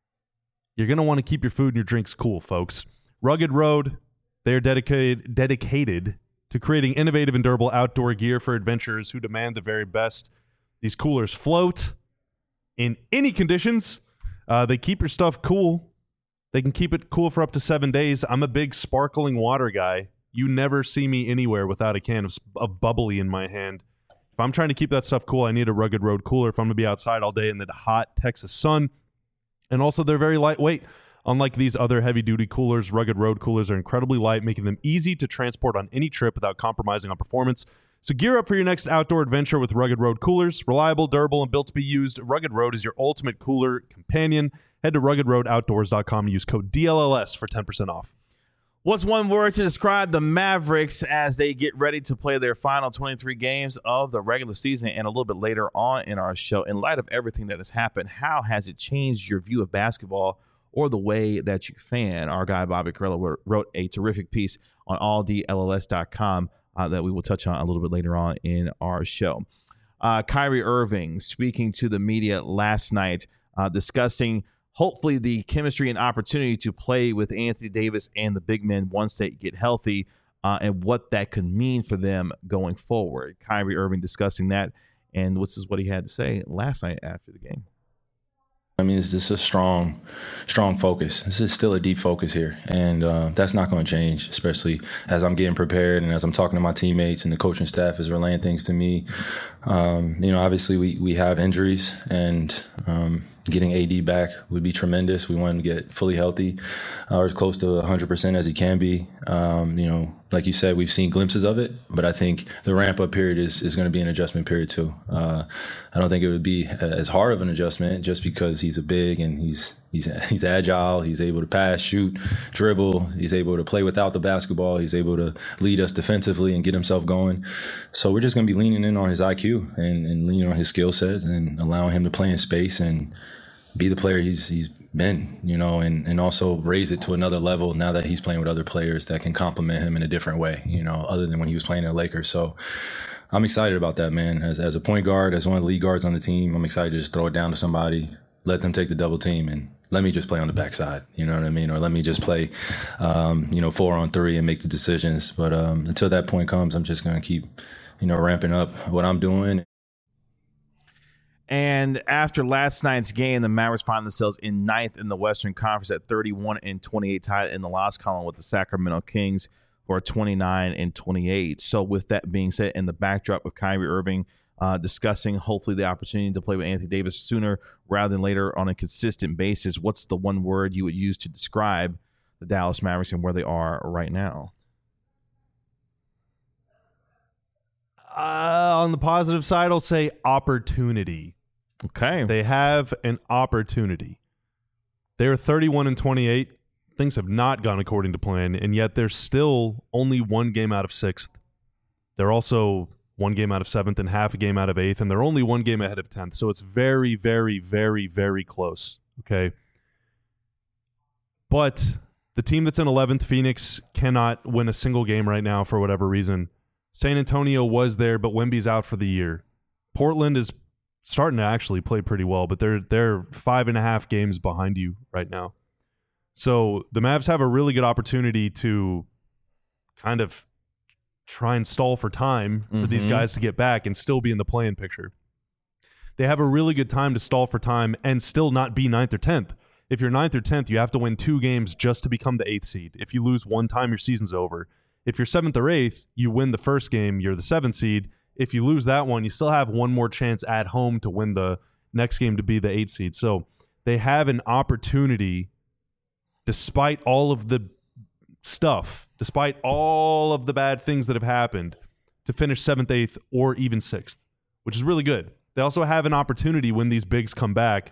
You're going to want to keep your food and your drinks cool, folks. Rugged Road, they are dedicated dedicated to creating innovative and durable outdoor gear for adventurers who demand the very best. These coolers float in any conditions. Uh, they keep your stuff cool. They can keep it cool for up to seven days. I'm a big sparkling water guy. You never see me anywhere without a can of, of bubbly in my hand. If I'm trying to keep that stuff cool, I need a Rugged Road cooler if I'm going to be outside all day in the hot Texas sun. And also, they're very lightweight. Unlike these other heavy-duty coolers, Rugged Road coolers are incredibly light, making them easy to transport on any trip without compromising on performance. So gear up for your next outdoor adventure with Rugged Road coolers. Reliable, durable, and built to be used, Rugged Road is your ultimate cooler companion. Head to rugged road outdoors dot com and use code D L L S for ten percent off. What's one word to describe the Mavericks as they get ready to play their final twenty-three games of the regular season? And a little bit later on in our show, in light of everything that has happened, how has it changed your view of basketball or the way that you fan? Our guy Bobby Karalla wrote a terrific piece on all D L L S dot com uh, that we will touch on a little bit later on in our show. Uh, Kyrie Irving speaking to the media last night, uh, discussing hopefully the chemistry and opportunity to play with Anthony Davis and the big men once they get healthy, uh, and what that could mean for them going forward. Kyrie Irving discussing that, and this is what he had to say last night after the game. I mean, it's just a strong, strong focus. This is still a deep focus here, and uh, that's not going to change, especially as I'm getting prepared and as I'm talking to my teammates and the coaching staff is relaying things to me. Um, you know, obviously we, we have injuries, and um, getting A D back would be tremendous. We want him to get fully healthy uh, or as close to one hundred percent as he can be. Um, you know, like you said, we've seen glimpses of it, but I think the ramp-up period is, is going to be an adjustment period too. Uh, I don't think it would be as hard of an adjustment just because he's a big and he's he's he's agile. He's able to pass, shoot, dribble. He's able to play without the basketball. He's able to lead us defensively and get himself going. So we're just going to be leaning in on his I Q and, and leaning on his skill sets and allowing him to play in space and be the player he's he's been, you know, and, and also raise it to another level now that he's playing with other players that can complement him in a different way, you know, other than when he was playing in the Lakers. So I'm excited about that, man. As as a point guard, as one of the lead guards on the team, I'm excited to just throw it down to somebody, let them take the double team, and let me just play on the backside, you know what I mean? Or let me just play, um, you know, four on three and make the decisions. But um, until that point comes, I'm just going to keep, you know, ramping up what I'm doing. And after last night's game, the Mavericks find themselves in ninth in the Western Conference at thirty-one and twenty-eight, tied in the loss column with the Sacramento Kings, who are twenty-nine and twenty-eight. So with that being said, in the backdrop of Kyrie Irving uh, discussing hopefully the opportunity to play with Anthony Davis sooner rather than later on a consistent basis, what's the one word you would use to describe the Dallas Mavericks and where they are right now? Uh, on the positive side, I'll say opportunity. Okay. They have an opportunity. They're thirty-one and twenty-eight. Things have not gone according to plan, and yet they're still only one game out of sixth. They're also one game out of seventh and half a game out of eighth, and they're only one game ahead of tenth. So it's very, very, very, very close. Okay. But the team that's in eleventh, Phoenix, cannot win a single game right now for whatever reason. San Antonio was there, but Wemby's out for the year. Portland is starting to actually play pretty well, but they're they're five and a half games behind you right now. So the Mavs have a really good opportunity to kind of try and stall for time for mm-hmm. these guys to get back and still be in the play-in picture. they have a really good time to stall for time and still not be ninth or tenth. If you're ninth or tenth, you have to win two games just to become the eighth seed. If you lose one time, your season's over. If you're seventh or eighth, you win the first game, you're the seventh seed. If you lose that one, you still have one more chance at home to win the next game to be the eighth seed. So they have an opportunity, despite all of the stuff, despite all of the bad things that have happened, to finish seventh, eighth, or even sixth, which is really good. They also have an opportunity when these bigs come back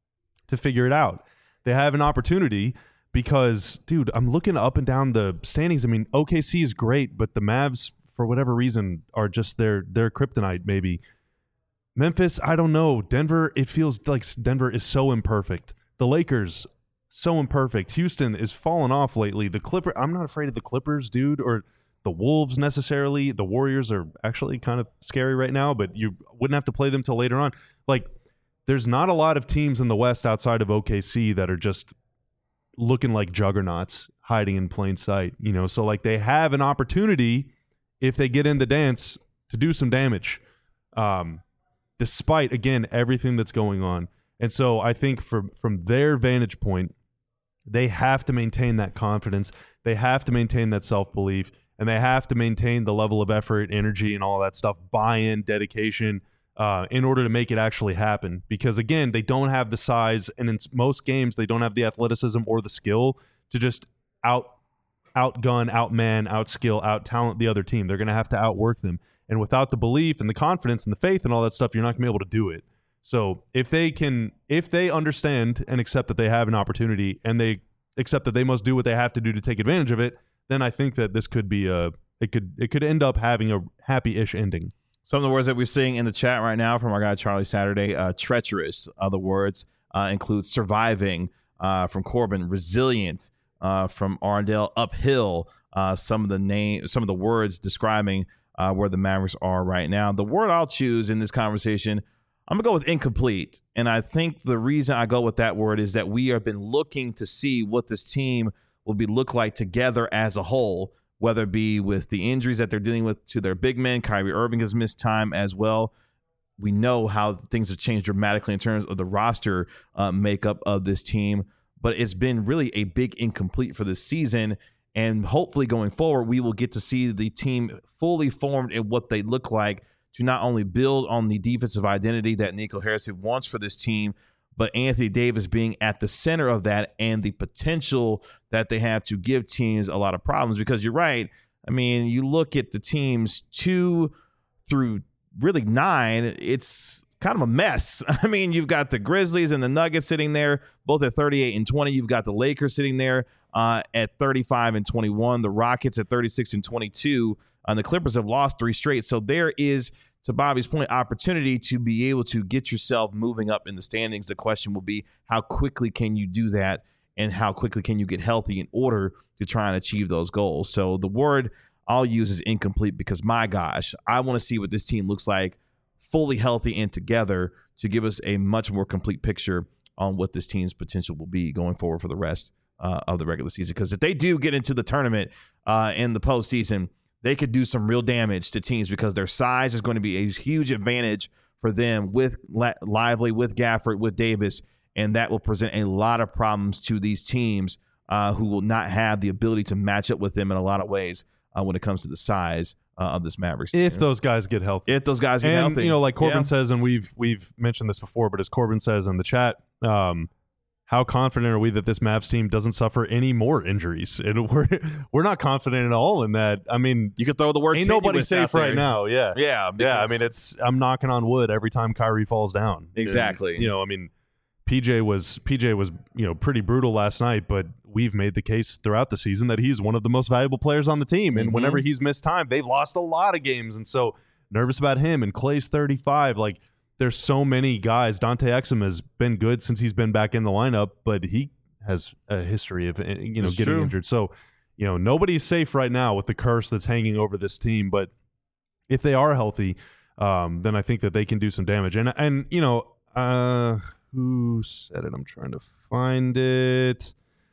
to figure it out. They have an opportunity because, dude, I'm looking up and down the standings. I mean, O K C is great, but the Mavs, for whatever reason, are just their their kryptonite, maybe. Memphis, I don't know. Denver, it feels like Denver is so imperfect. The Lakers, so imperfect. Houston is falling off lately. The Clippers, I'm not afraid of the Clippers, dude, or the Wolves necessarily. The Warriors are actually kind of scary right now, but you wouldn't have to play them till later on. Like, there's not a lot of teams in the West outside of O K C that are just looking like juggernauts hiding in plain sight, you know? So, like, they have an opportunity, if they get in the dance, to do some damage, um, despite, again, everything that's going on. And so I think from from their vantage point, they have to maintain that confidence. They have to maintain that self-belief, and they have to maintain the level of effort, energy, and all that stuff, buy-in, dedication, uh, in order to make it actually happen. Because, again, they don't have the size, and in most games, they don't have the athleticism or the skill to just out outgun, outman, outskill, out-talent the other team. They're going to have to outwork them. And without the belief and the confidence and the faith and all that stuff, you're not going to be able to do it. So if they can, if they understand and accept that they have an opportunity and they accept that they must do what they have to do to take advantage of it, then I think that this could be a, it could, it could end up having a happy-ish ending. Some of the words that we're seeing in the chat right now from our guy Charlie Saturday, uh, treacherous. Other words uh, include surviving uh, from Corbin, resilient uh, from Arndale, uphill. Uh, some of the name, some of the words describing uh, where the Mavericks are right now. The word I'll choose in this conversation, I'm gonna go with incomplete, and I think the reason I go with that word is that we have been looking to see what this team will be look like together as a whole, whether it be with the injuries that they're dealing with to their big men. Kyrie Irving has missed time as well. We know how things have changed dramatically in terms of the roster uh, makeup of this team, but it's been really a big incomplete for this season. And hopefully going forward, we will get to see the team fully formed and what they look like to not only build on the defensive identity that Nico Harrison wants for this team, but Anthony Davis being at the center of that and the potential that they have to give teams a lot of problems. Because you're right. I mean, you look at the teams two through really nine, it's kind of a mess. I mean, you've got the Grizzlies and the Nuggets sitting there, both at thirty-eight and twenty. You've got the Lakers sitting there uh, at thirty-five and twenty-one. The Rockets at thirty-six and twenty-two. And the Clippers have lost three straight. So there is, to Bobby's point, opportunity to be able to get yourself moving up in the standings. The question will be, how quickly can you do that, and how quickly can you get healthy in order to try and achieve those goals? So the word I'll use is incomplete, because, my gosh, I want to see what this team looks like fully healthy and together to give us a much more complete picture on what this team's potential will be going forward for the rest uh, of the regular season. Because if they do get into the tournament uh, in the postseason, they could do some real damage to teams, because their size is going to be a huge advantage for them with Lively, with Gafford, with Davis, and that will present a lot of problems to these teams uh, who will not have the ability to match up with them in a lot of ways uh, when it comes to the size uh, of this Mavericks team. If those guys get healthy. If those guys get and, healthy. you know, like Corbin yeah. says, and we've we've mentioned this before, but as Corbin says in the chat, um, how confident are we that this Mavs team doesn't suffer any more injuries? And we're we're not confident at all in that. I mean, you could throw the word ain't nobody safe right now. Yeah, yeah, yeah. I mean, it's I'm knocking on wood every time Kyrie falls down. Exactly. And, you know, I mean, P J was P J was you know pretty brutal last night, but we've made the case throughout the season that he's one of the most valuable players on the team. And mm-hmm. whenever he's missed time, they've lost a lot of games, and so nervous about him. And Clay's thirty-five, like. There's so many guys. Dante Exum has been good since he's been back in the lineup, but he has a history of you know it's getting true. injured. So, you know, nobody's safe right now with the curse that's hanging over this team. But if they are healthy, um, then I think that they can do some damage. And and you know, uh, who said it? I'm trying to find it.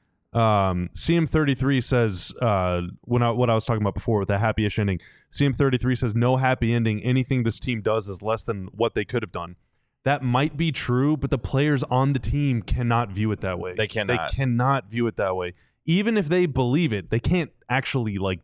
Um, C M thirty-three says uh, when I, what I was talking about before with the happy-ish ending. C M thirty-three says no happy ending. Anything this team does is less than what they could have done. that might be true, but the players on the team cannot view it that way. They cannot. They cannot view it that way. Even if they believe it, they can't actually like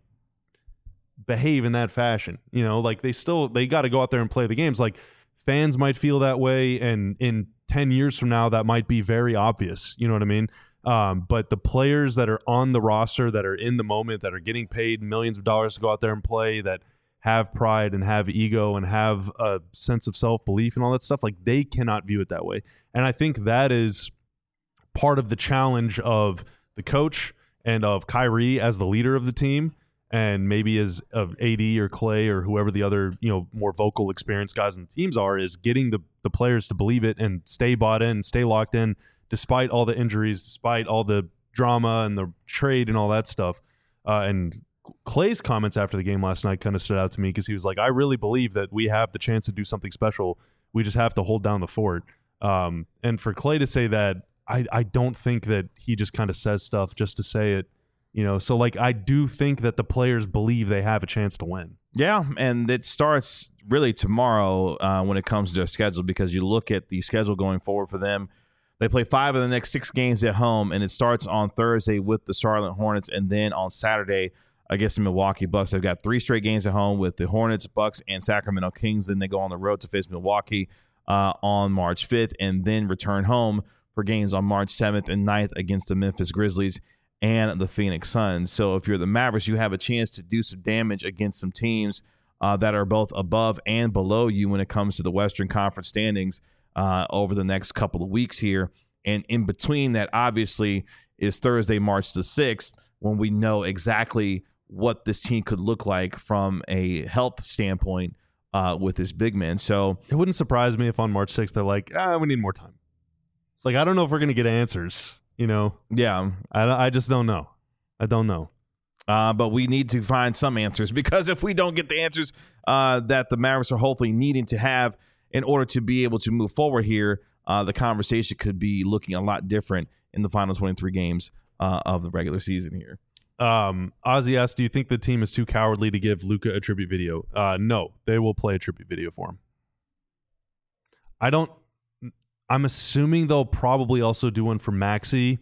behave in that fashion. You know, like they still they got to go out there and play the games. Like fans might feel that way, and in ten years from now, that might be very obvious. You know what I mean? Um, but the players that are on the roster, that are in the moment, that are getting paid millions of dollars to go out there and play, that have pride and have ego and have a sense of self-belief and all that stuff, like they cannot view it that way. And I think that is part of the challenge of the coach and of Kyrie as the leader of the team, and maybe as of A D or Clay or whoever the other, you know, more vocal experienced guys on the teams are, is getting the, the players to believe it and stay bought in, stay locked in, despite all the injuries, despite all the drama and the trade and all that stuff. Uh, and Clay's comments after the game last night kind of stood out to me because he was like, I really believe that we have the chance to do something special. We just have to hold down the fort. Um, and for Clay to say that, I, I don't think that he just kind of says stuff just to say it, you know? So like, I do think that the players believe they have a chance to win. Yeah, and it starts really tomorrow uh, when it comes to their schedule, because you look at the schedule going forward for them. They play five of the next six games at home, and it starts on Thursday with the Charlotte Hornets, and then on Saturday against the Milwaukee Bucks. They've got three straight games at home with the Hornets, Bucks, and Sacramento Kings. Then they go on the road to face Milwaukee uh, on March fifth, and then return home for games on March seventh and ninth against the Memphis Grizzlies and the Phoenix Suns. So if you're the Mavericks, you have a chance to do some damage against some teams uh, that are both above and below you when it comes to the Western Conference standings uh, over the next couple of weeks here. And in between that, obviously, is Thursday, March the sixth, when we know exactly what this team could look like from a health standpoint uh, with this big man. So it wouldn't surprise me if on March sixth they're like, ah, we need more time. Like, I don't know if we're going to get answers, you know? Yeah. I, I just don't know. I don't know. Uh, but we need to find some answers, because if we don't get the answers uh, that the Mavericks are hopefully needing to have in order to be able to move forward here, uh, the conversation could be looking a lot different in the final twenty-three games uh, of the regular season here. Um, Ozzy asked, do you think the team is too cowardly to give Luka a tribute video? Uh, no, they will play a tribute video for him. I don't, I'm assuming they'll probably also do one for Maxey.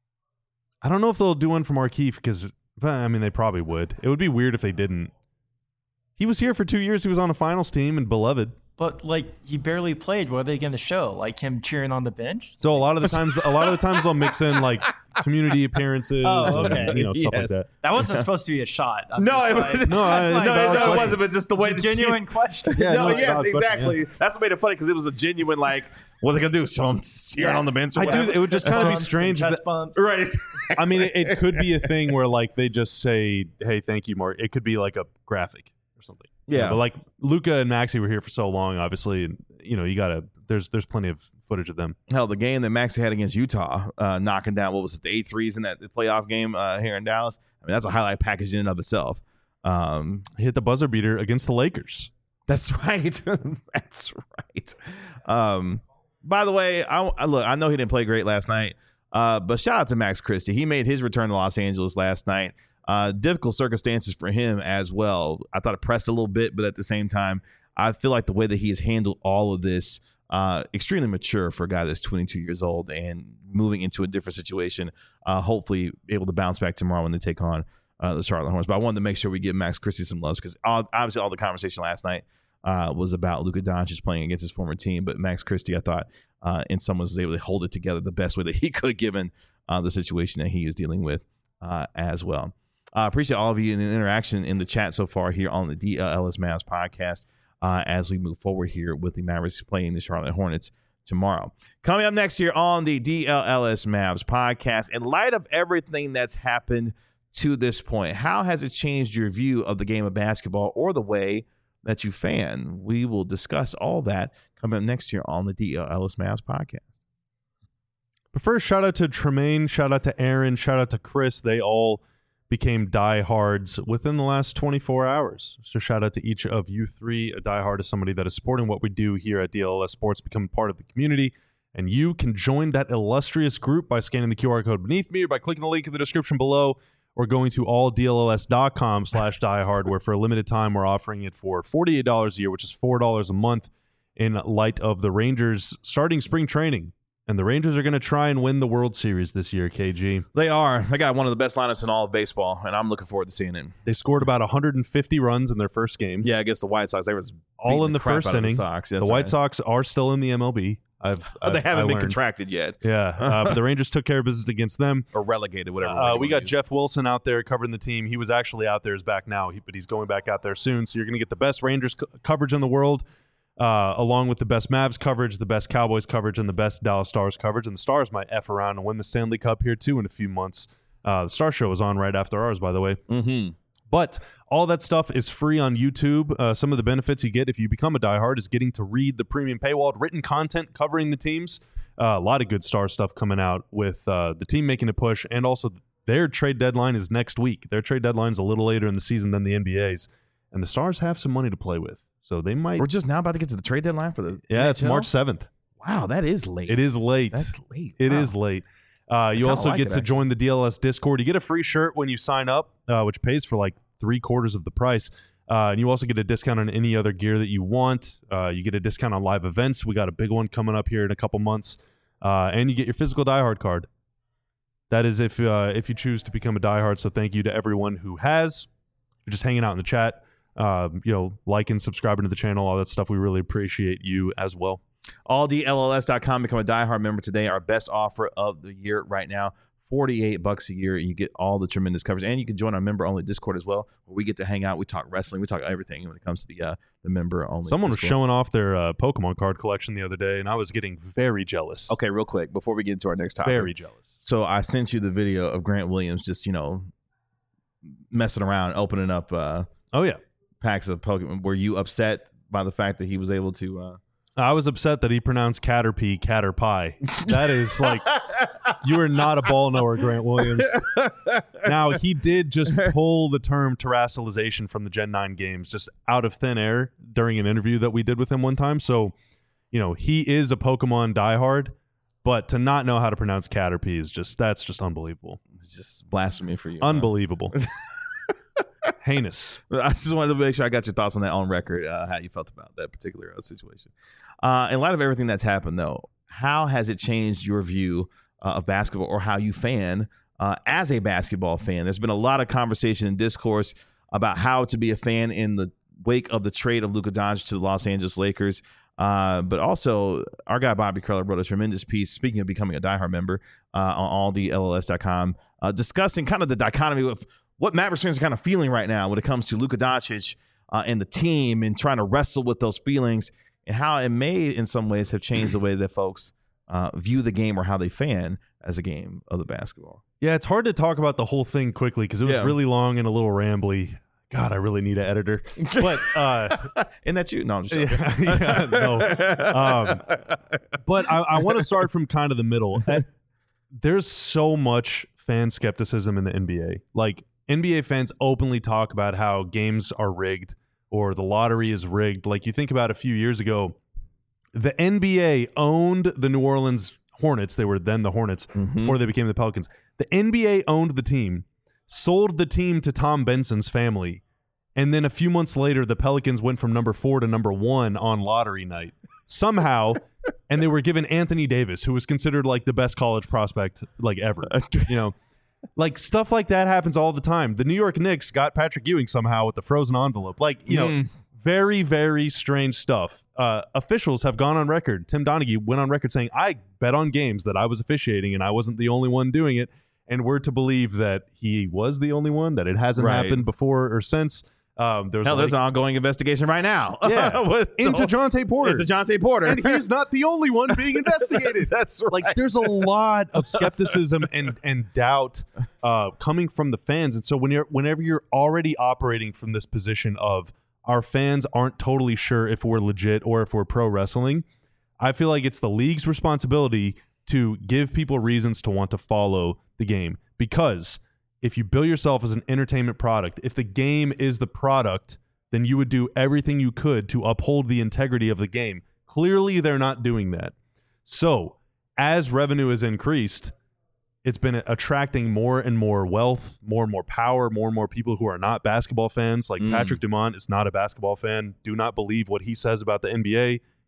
I don't know if they'll do one for Markieff, because, I mean, they probably would. It would be weird if they didn't. He was here for two years. He was on a finals team and beloved. But like, he barely played. What are they going to show? Like him cheering on the bench? So a lot of the times, a lot of the times they'll mix in like community appearances, oh, okay. and, you know, stuff Yes. like that. That wasn't supposed to be a shot. I'm No, just it like, was- No, I- it's a no, valid no, it question. wasn't, but just the way it's the a genuine question. Yeah, no, no, it's a yes, valid question, exactly. That's what made it funny, because it was a genuine, like, what are they going to do? Show him cheering Yeah. on the bench? Or I do. whatever? It would just kind of be Bumps and strange. Chest that- bumps. Right. I mean, it, it could be a thing where like they just say, "Hey, thank you, Mark." It could be like a graphic or something. You know, Yeah. but like Luka and Maxey were here for so long, obviously, and you know, you gotta. There's there's plenty of footage of them. Hell, the game that Maxey had against Utah, uh, knocking down, what was it, the eight threes in that playoff game uh, here in Dallas. I mean, that's a highlight package in and of itself. Um, He hit the buzzer beater against the Lakers. That's right. That's right. Um, by the way, I, I look. I know he didn't play great last night, uh, but shout out to Max Christie. He made his return to Los Angeles last night. Uh, difficult circumstances for him as well. I thought it pressed a little bit, but at the same time, I feel like the way that he has handled all of this, uh, extremely mature for a guy that's twenty-two years old and moving into a different situation. Uh, hopefully, able to bounce back tomorrow when they take on uh, the Charlotte Hornets. But I wanted to make sure we give Max Christie some love, because obviously all the conversation last night uh, was about Luka Doncic playing against his former team. But Max Christie, I thought, uh, in some ways was able to hold it together the best way that he could, given uh, the situation that he is dealing with uh, as well. I uh, appreciate all of you in the interaction in the chat so far here on the D L L S Mavs podcast uh, as we move forward here with the Mavericks playing the Charlotte Hornets tomorrow. Coming up next here on the D L L S Mavs podcast, in light of everything that's happened to this point, how has it changed your view of the game of basketball or the way that you fan? We will discuss all that coming up next year on the D L L S Mavs podcast. But first, shout out to Tremaine, shout out to Aaron, shout out to Chris. They all became diehards within the last twenty-four hours. So shout out to each of you three. A diehard is somebody that is supporting what we do here at D L L S Sports, become part of the community. And you can join that illustrious group by scanning the Q R code beneath me or by clicking the link in the description below, or going to all D L L S dot com slash diehard, where for a limited time we're offering it for forty-eight dollars a year, which is four dollars a month. in light of the Rangers starting spring training. And the Rangers are going to try and win the World Series this year, K G. They are. They got one of the best lineups in all of baseball, and I'm looking forward to seeing it. They scored about one hundred fifty runs in their first game. Yeah, against the White Sox. They were all in the, the crap first out of inning. The, Sox. Yes, the White right. Sox are still in the M L B. I've, I've they haven't I been learned. contracted yet. Yeah, uh, but the Rangers took care of business against them. Or relegated, whatever. Uh, word we you got wanna use. Jeff Wilson out there covering the team. He was actually out there. He's back now, he, but he's going back out there soon. So you're going to get the best Rangers co- coverage in the world, uh, along with the best Mavs coverage, the best Cowboys coverage, and the best Dallas Stars coverage. And the Stars might F around and win the Stanley Cup here, too, in a few months. Uh, the Star Show is on right after ours, by the way. Mm-hmm. But all that stuff is free on YouTube. Uh, some of the benefits you get if you become a diehard is getting to read the premium paywalled written content covering the teams. Uh, a lot of good Star stuff coming out with uh, the team making a push, and also their trade deadline is next week. Their trade deadline is a little later in the season than the N B A's, and the Stars have some money to play with, so they might. We're just now about to get to the trade deadline for the Yeah, N H L? it's March seventh. Wow, that is late. It is late. That's late. It Wow. is late. Uh, you kinda also like get it, to actually. join the D L S Discord. You get a free shirt when you sign up, uh, which pays for like three quarters of the price. Uh, and you also get a discount on any other gear that you want. Uh, you get a discount on live events. We got a big one coming up here in a couple months. Uh, and you get your physical diehard card. That is if uh, if you choose to become a diehard. So thank you to everyone who has. You're just hanging out in the chat, uh, you know, liking, subscribing to the channel, all that stuff. We really appreciate you as well. all D L L S dot com. Become a diehard member today. Our best offer of the year right now. forty-eight bucks a year, and you get all the tremendous coverage. And you can join our member-only Discord as well, where we get to hang out. We talk wrestling. We talk everything when it comes to the uh, the member-only Someone was Discord. showing off their uh, Pokemon card collection the other day, and I was getting very jealous. Okay, real quick, before we get into our next topic. Very jealous. So I sent you the video of Grant Williams just, you know, messing around, opening up uh, Oh, yeah. packs of Pokemon. Were you upset by the fact that he was able to... Uh... I was upset that he pronounced Caterpie Caterpie. That is like, you are not a ball knower, Grant Williams. Now, he did just pull the term terrestrialization from the Gen nine games just out of thin air during an interview that we did with him one time. So, you know, he is a Pokemon diehard, but to not know how to pronounce Caterpie is just, that's just unbelievable. It's just blasphemy for you. huh? Unbelievable. Heinous. I just wanted to make sure I got your thoughts on that on record, uh, how you felt about that particular uh, situation. Uh, in light of everything that's happened, though, how has it changed your view uh, of basketball or how you fan uh, as a basketball fan? There's been a lot of conversation and discourse about how to be a fan in the wake of the trade of Luka Doncic to the Los Angeles Lakers. Uh, but also, our guy Bobby Curler wrote a tremendous piece, speaking of becoming a diehard member, uh, on all D L L S dot com, uh, discussing kind of the dichotomy of what Mavericks fans are kind of feeling right now when it comes to Luka Doncic uh, and the team and trying to wrestle with those feelings and how it may, in some ways, have changed the way that folks uh, view the game or how they fan as a game of the basketball. Yeah, it's hard to talk about the whole thing quickly because it was Yeah. really long and a little rambly. God, I really need an editor. But uh, Isn't that you? No, I'm just joking. yeah, yeah, no. Um, but I, I want to start from kind of the middle. At- There's so much fan skepticism in the N B A. Like, N B A fans openly talk about how games are rigged or the lottery is rigged. Like, you think about a few years ago, the N B A owned the New Orleans Hornets. They were then the Hornets Mm-hmm. before they became the Pelicans. The N B A owned the team, sold the team to Tom Benson's family, and then a few months later, the Pelicans went from number four to number one on lottery night. Somehow, and they were given Anthony Davis, who was considered like the best college prospect like ever. You know, like stuff like that happens all the time. The New York Knicks got Patrick Ewing somehow with the frozen envelope. Like, you know, Mm. very, very strange stuff. Uh, officials have gone on record. Tim Donaghy went on record saying, I bet on games that I was officiating and I wasn't the only one doing it. And we're to believe that he was the only one, that it hasn't Right. happened before or since. Um, there was Hell, like, there's an ongoing investigation right now. Yeah. With the into whole- Jonte Porter. Into Jonte Porter. And he's not the only one being investigated. That's right. Like, there's a lot of skepticism and and doubt uh, coming from the fans. And so when you're whenever you're already operating from this position of our fans aren't totally sure if we're legit or if we're pro wrestling, I feel like it's the league's responsibility to give people reasons to want to follow the game. Because if you bill yourself as an entertainment product, if the game is the product, then you would do everything you could to uphold the integrity of the game. Clearly, they're not doing that. So, as revenue has increased, it's been attracting more and more wealth, more and more power, more and more people who are not basketball fans. Like Mm. Patrick Dumont is not a basketball fan. Do not believe what he says about the N B A.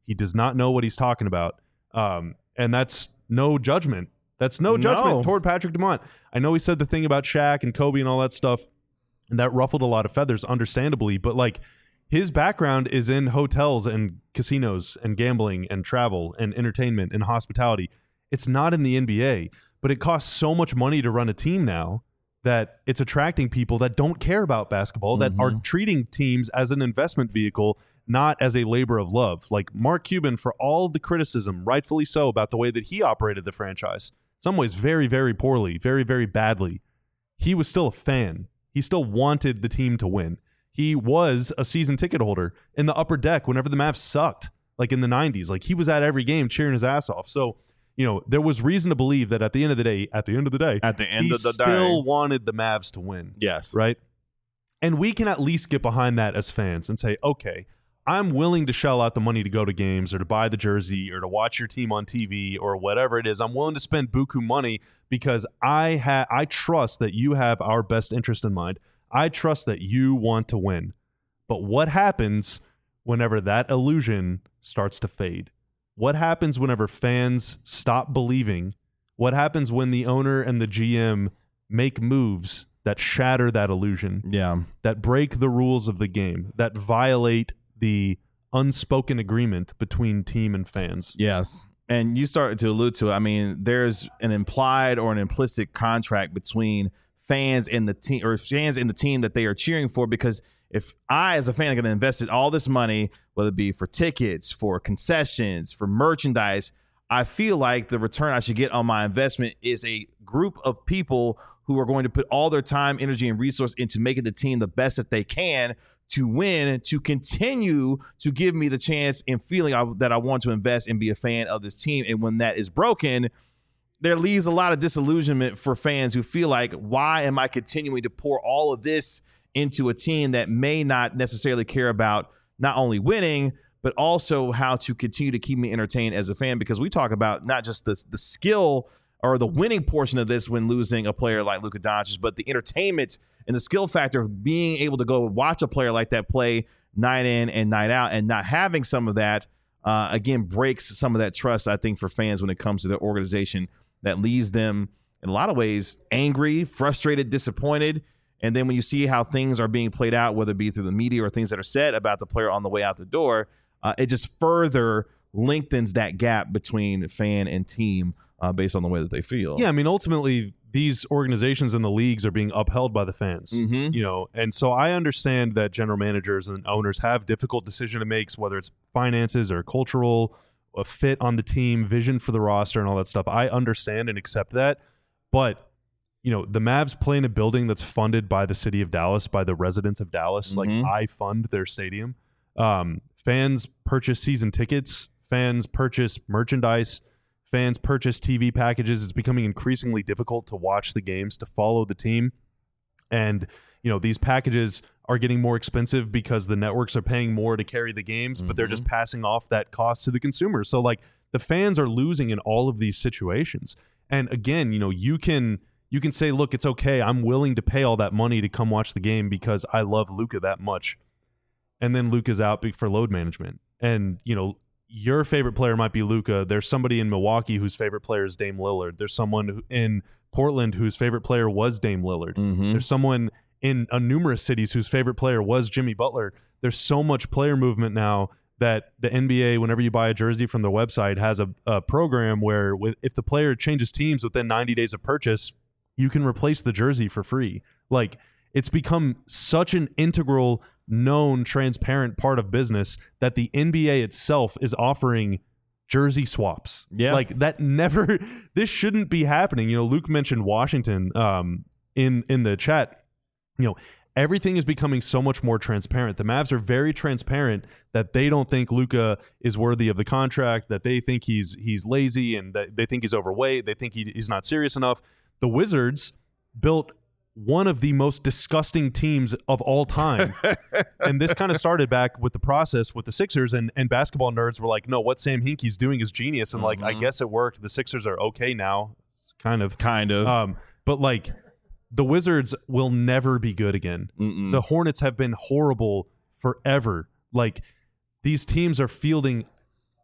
He does not know what he's talking about. Um, and that's no judgment. That's no judgment No. toward Patrick Dumont. I know he said the thing about Shaq and Kobe and all that stuff, and that ruffled a lot of feathers, understandably. But like, his background is in hotels and casinos and gambling and travel and entertainment and hospitality. It's not in the N B A, but it costs so much money to run a team now that it's attracting people that don't care about basketball, that Mm-hmm. are treating teams as an investment vehicle, not as a labor of love. Like Mark Cuban, for all the criticism, rightfully so, about the way that he operated the franchise, some ways very, very poorly, very, very badly, he was still a fan. He still wanted the team to win. He was a season ticket holder in the upper deck whenever the Mavs sucked, like in the nineties. Like he was at every game cheering his ass off. So, you know, there was reason to believe that at the end of the day, at the end of the day, At the end he of the still day. wanted the Mavs to win. Yes. Right? And we can at least get behind that as fans and say, okay, I'm willing to shell out the money to go to games or to buy the jersey or to watch your team on T V or whatever it is. I'm willing to spend buku money because I ha- I trust that you have our best interest in mind. I trust that you want to win. But what happens whenever that illusion starts to fade? What happens whenever fans stop believing? What happens when the owner and the G M make moves that shatter that illusion, Yeah. that break the rules of the game, that violate the unspoken agreement between team and fans? Yes. And you started to allude to it. I mean, there's an implied or an implicit contract between fans and the team, or fans and the team that they are cheering for. Because if I, as a fan, am going to invest all this money, whether it be for tickets, for concessions, for merchandise, I feel like the return I should get on my investment is a group of people who are going to put all their time, energy, and resource into making the team the best that they can to win, to continue to give me the chance and feeling I, that I want to invest and be a fan of this team. And when that is broken, there leaves a lot of disillusionment for fans who feel like, why am I continuing to pour all of this into a team that may not necessarily care about not only winning, but also how to continue to keep me entertained as a fan? Because we talk about not just the, the skill or the winning portion of this when losing a player like Luka Doncic, but the entertainment and the skill factor of being able to go watch a player like that play night in and night out, and not having some of that, uh, again, breaks some of that trust, I think, for fans when it comes to the organization. That leaves them, in a lot of ways, angry, frustrated, disappointed. And then when you see how things are being played out, whether it be through the media or things that are said about the player on the way out the door, uh, it just further lengthens that gap between fan and team uh, based on the way that they feel. Yeah, I mean, ultimately, these organizations and the leagues are being upheld by the fans, Mhm. you know, and so I understand that general managers and owners have difficult decision to make, whether it's finances or cultural, a fit on the team, vision for the roster, and all that stuff. I understand and accept that, but you know, the Mavs play in a building that's funded by the city of Dallas, by the residents of Dallas. Mhm. Like, I fund their stadium. Um, fans purchase season tickets. Fans purchase merchandise. Fans purchase T V packages. It's becoming increasingly difficult to watch the games, to follow the team. And, you know, these packages are getting more expensive because the networks are paying more to carry the games, but they're just passing off that cost to the consumer. So, like, the fans are losing in all of these situations. And again, you know, you can you can say, look, it's okay. I'm willing to pay all that money to come watch the game because I love Luka that much. And then Luka's out for load management. And, you know, your favorite player might be Luka. There's somebody in Milwaukee whose favorite player is Dame Lillard. There's someone who, in Portland whose favorite player was Dame Lillard. Mhm. There's someone in uh, numerous cities whose favorite player was Jimmy Butler. There's so much player movement now that the N B A, whenever you buy a jersey from their website, has a, a program where with, if the player changes teams within ninety days of purchase, you can replace the jersey for free. Like, it's become such an integral, known, transparent part of business that the N B A itself is offering jersey swaps. Yeah. Like, that never, this shouldn't be happening. You know, Luke mentioned Washington um, in, in the chat. You know, everything is becoming so much more transparent. The Mavs are very transparent that they don't think Luka is worthy of the contract, that they think he's he's lazy, and that they think he's overweight. They think he, he's not serious enough. The Wizards built one of the most disgusting teams of all time. And this kind of started back with the process with the Sixers, and, and basketball nerds were like, no, what Sam Hinkie's doing is genius. And like, I guess it worked. The Sixers are okay now, kind of. Kind of. Um, but like, the Wizards will never be good again. Mm-mm. The Hornets have been horrible forever. Like, these teams are fielding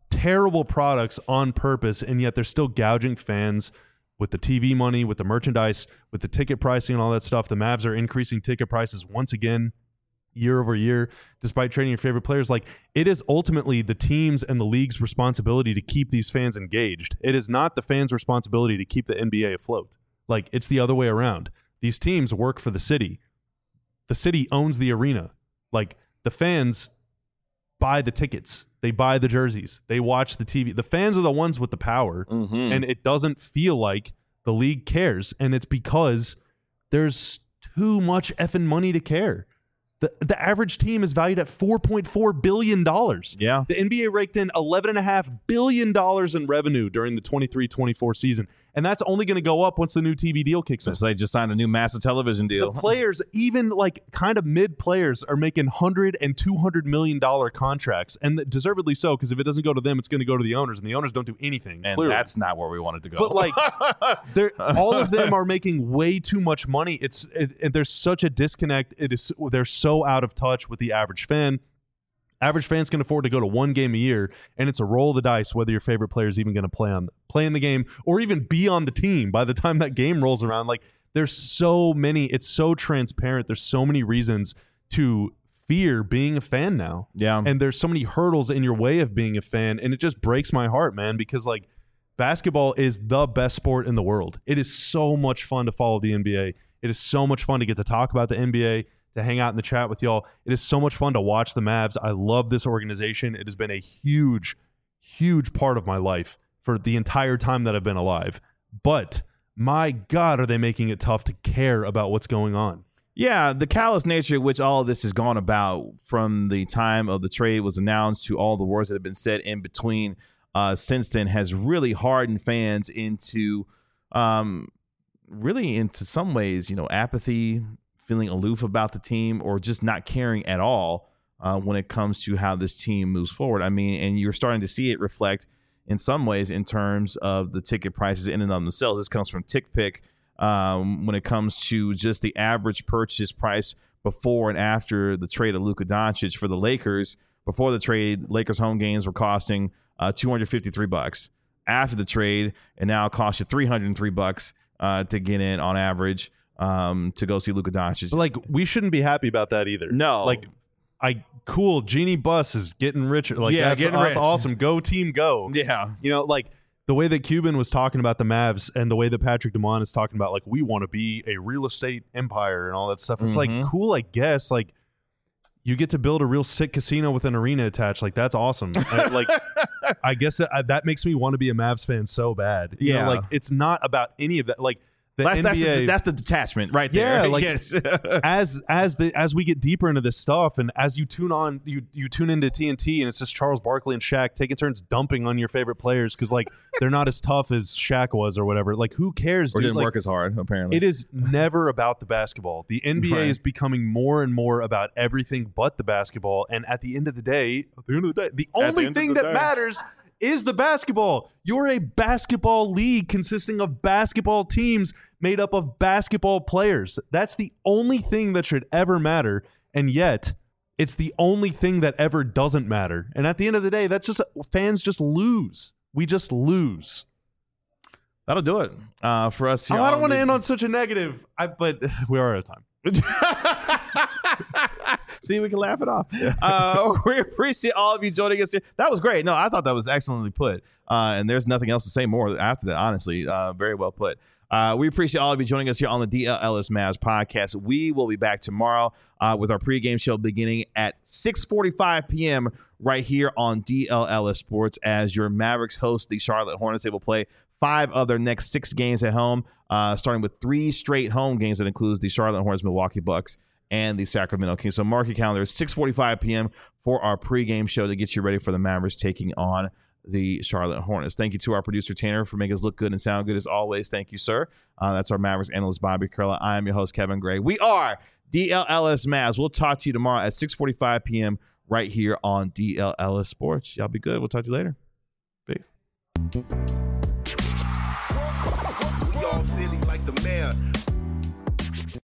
terrible products on purpose, and yet they're still gouging fans with the T V money, with the merchandise, with the ticket pricing and all that stuff. The Mavs are increasing ticket prices once again year over year, despite trading your favorite players. Like, it is ultimately the team's and the league's responsibility to keep these fans engaged. It is not the fans' responsibility to keep the N B A afloat. Like, it's the other way around. These teams work for the city. The city owns the arena. Like, the fans buy the tickets. They buy the jerseys. They watch the T V. The fans are the ones with the power, Mm-hmm. and it doesn't feel like the league cares, and it's because there's too much effing money to care. The the average team is valued at four point four billion dollars. Yeah. The N B A raked in eleven point five billion dollars in revenue during the twenty-three twenty-four season. And that's only going to go up once the new T V deal kicks in. So they just signed a new massive television deal. The players, even like kind of mid players, are making one hundred and two hundred million dollars contracts. And deservedly so, because if it doesn't go to them, it's going to go to the owners. And the owners don't do anything. And clearly. that's not where we wanted to go. But like, they're, all of them are making way too much money. It's it, it, there's such a disconnect. It is they're so out of touch with the average fan. Average fans can afford to go to one game a year, and it's a roll of the dice whether your favorite player is even going to play on play in the game or even be on the team by the time that game rolls around. Like, there's so many. It's so transparent. There's so many reasons to fear being a fan now. Yeah. And there's so many hurdles in your way of being a fan, and it just breaks my heart, man, because like basketball is the best sport in the world. It is so much fun to follow the N B A. It is so much fun to get to talk about the N B A, to hang out in the chat with y'all. It is so much fun to watch the Mavs. I love this organization. It has been a huge, huge part of my life for the entire time that I've been alive. But my God, are they making it tough to care about what's going on? Yeah, the callous nature in which all of this has gone about from the time of the trade was announced to all the words that have been said in between uh, since then has really hardened fans into um, really into some ways, you know, apathy, feeling aloof about the team, or just not caring at all uh, when it comes to how this team moves forward. I mean, and you're starting to see it reflect in some ways in terms of the ticket prices in and of themselves. This comes from TickPick um, when it comes to just the average purchase price before and after the trade of Luka Doncic for the Lakers. Before the trade, Lakers home games were costing uh, two hundred fifty-three bucks. After the trade, it now costs you three hundred three bucks uh, to get in on average. Um, to go see Luka Doncic. But like, we shouldn't be happy about that either. No. Like, I cool. Genie Bus is getting richer. Like, Yeah, that's, getting that's rich. awesome. Go team, go. Yeah. You know, like the way that Cuban was talking about the Mavs and the way that Patrick Dumont is talking about, like, we want to be a real estate empire and all that stuff. It's Mhm. like cool, I guess. Like, you get to build a real sick casino with an arena attached. Like, that's awesome. I, like, I guess that, that makes me want to be a Mavs fan so bad. You know, Yeah. like, it's not about any of that. Like, the That's, N that's, B A. the, that's the detachment right there. Yeah, like- yes. as as the as we get deeper into this stuff, and as you tune on, you you tune into T N T, and it's just Charles Barkley and Shaq taking turns dumping on your favorite players because like they're not as tough as Shaq was or whatever. Like, who cares? or dude? didn't Like, work as hard, apparently. it is never about the basketball. The N B A Right. is becoming more and more about everything but the basketball. And at the end of the day, at the end of the day, the At the only end of thing the that day. matters is the basketball. You're a basketball league consisting of basketball teams made up of basketball players. That's the only thing that should ever matter. And yet, it's the only thing that ever doesn't matter. And at the end of the day, that's just fans just lose. We just lose. That'll do it uh, for us here. Oh, I don't want to the- end on such a negative, I, but we are out of time. See, we can laugh it off. Uh, we appreciate all of you joining us here. That was great. No, I thought that was excellently put. Uh, and there's nothing else to say more after that, honestly. Uh, very well put. Uh, we appreciate all of you joining us here on the D L Ellis Mavs podcast. We will be back tomorrow uh, with our pregame show beginning at six forty-five p.m. right here on D L Ellis Sports as your Mavericks host the Charlotte Hornets. They will play five of their next six games at home, uh, starting with three straight home games that includes the Charlotte Hornets, Milwaukee Bucks, and the Sacramento Kings. So mark your calendar, six forty-five p.m. for our pregame show to get you ready for the Mavericks taking on the Charlotte Hornets. Thank you to our producer, Tanner, for making us look good and sound good as always. Thank you, sir. Uh, that's our Mavericks analyst, Bobby Curla. I am your host, Kevin Gray. We are D L Ellis Mavs. We'll talk to you tomorrow at six forty-five p.m. right here on D L Ellis Sports. Y'all be good. We'll talk to you later. Peace. We all silly like the mayor.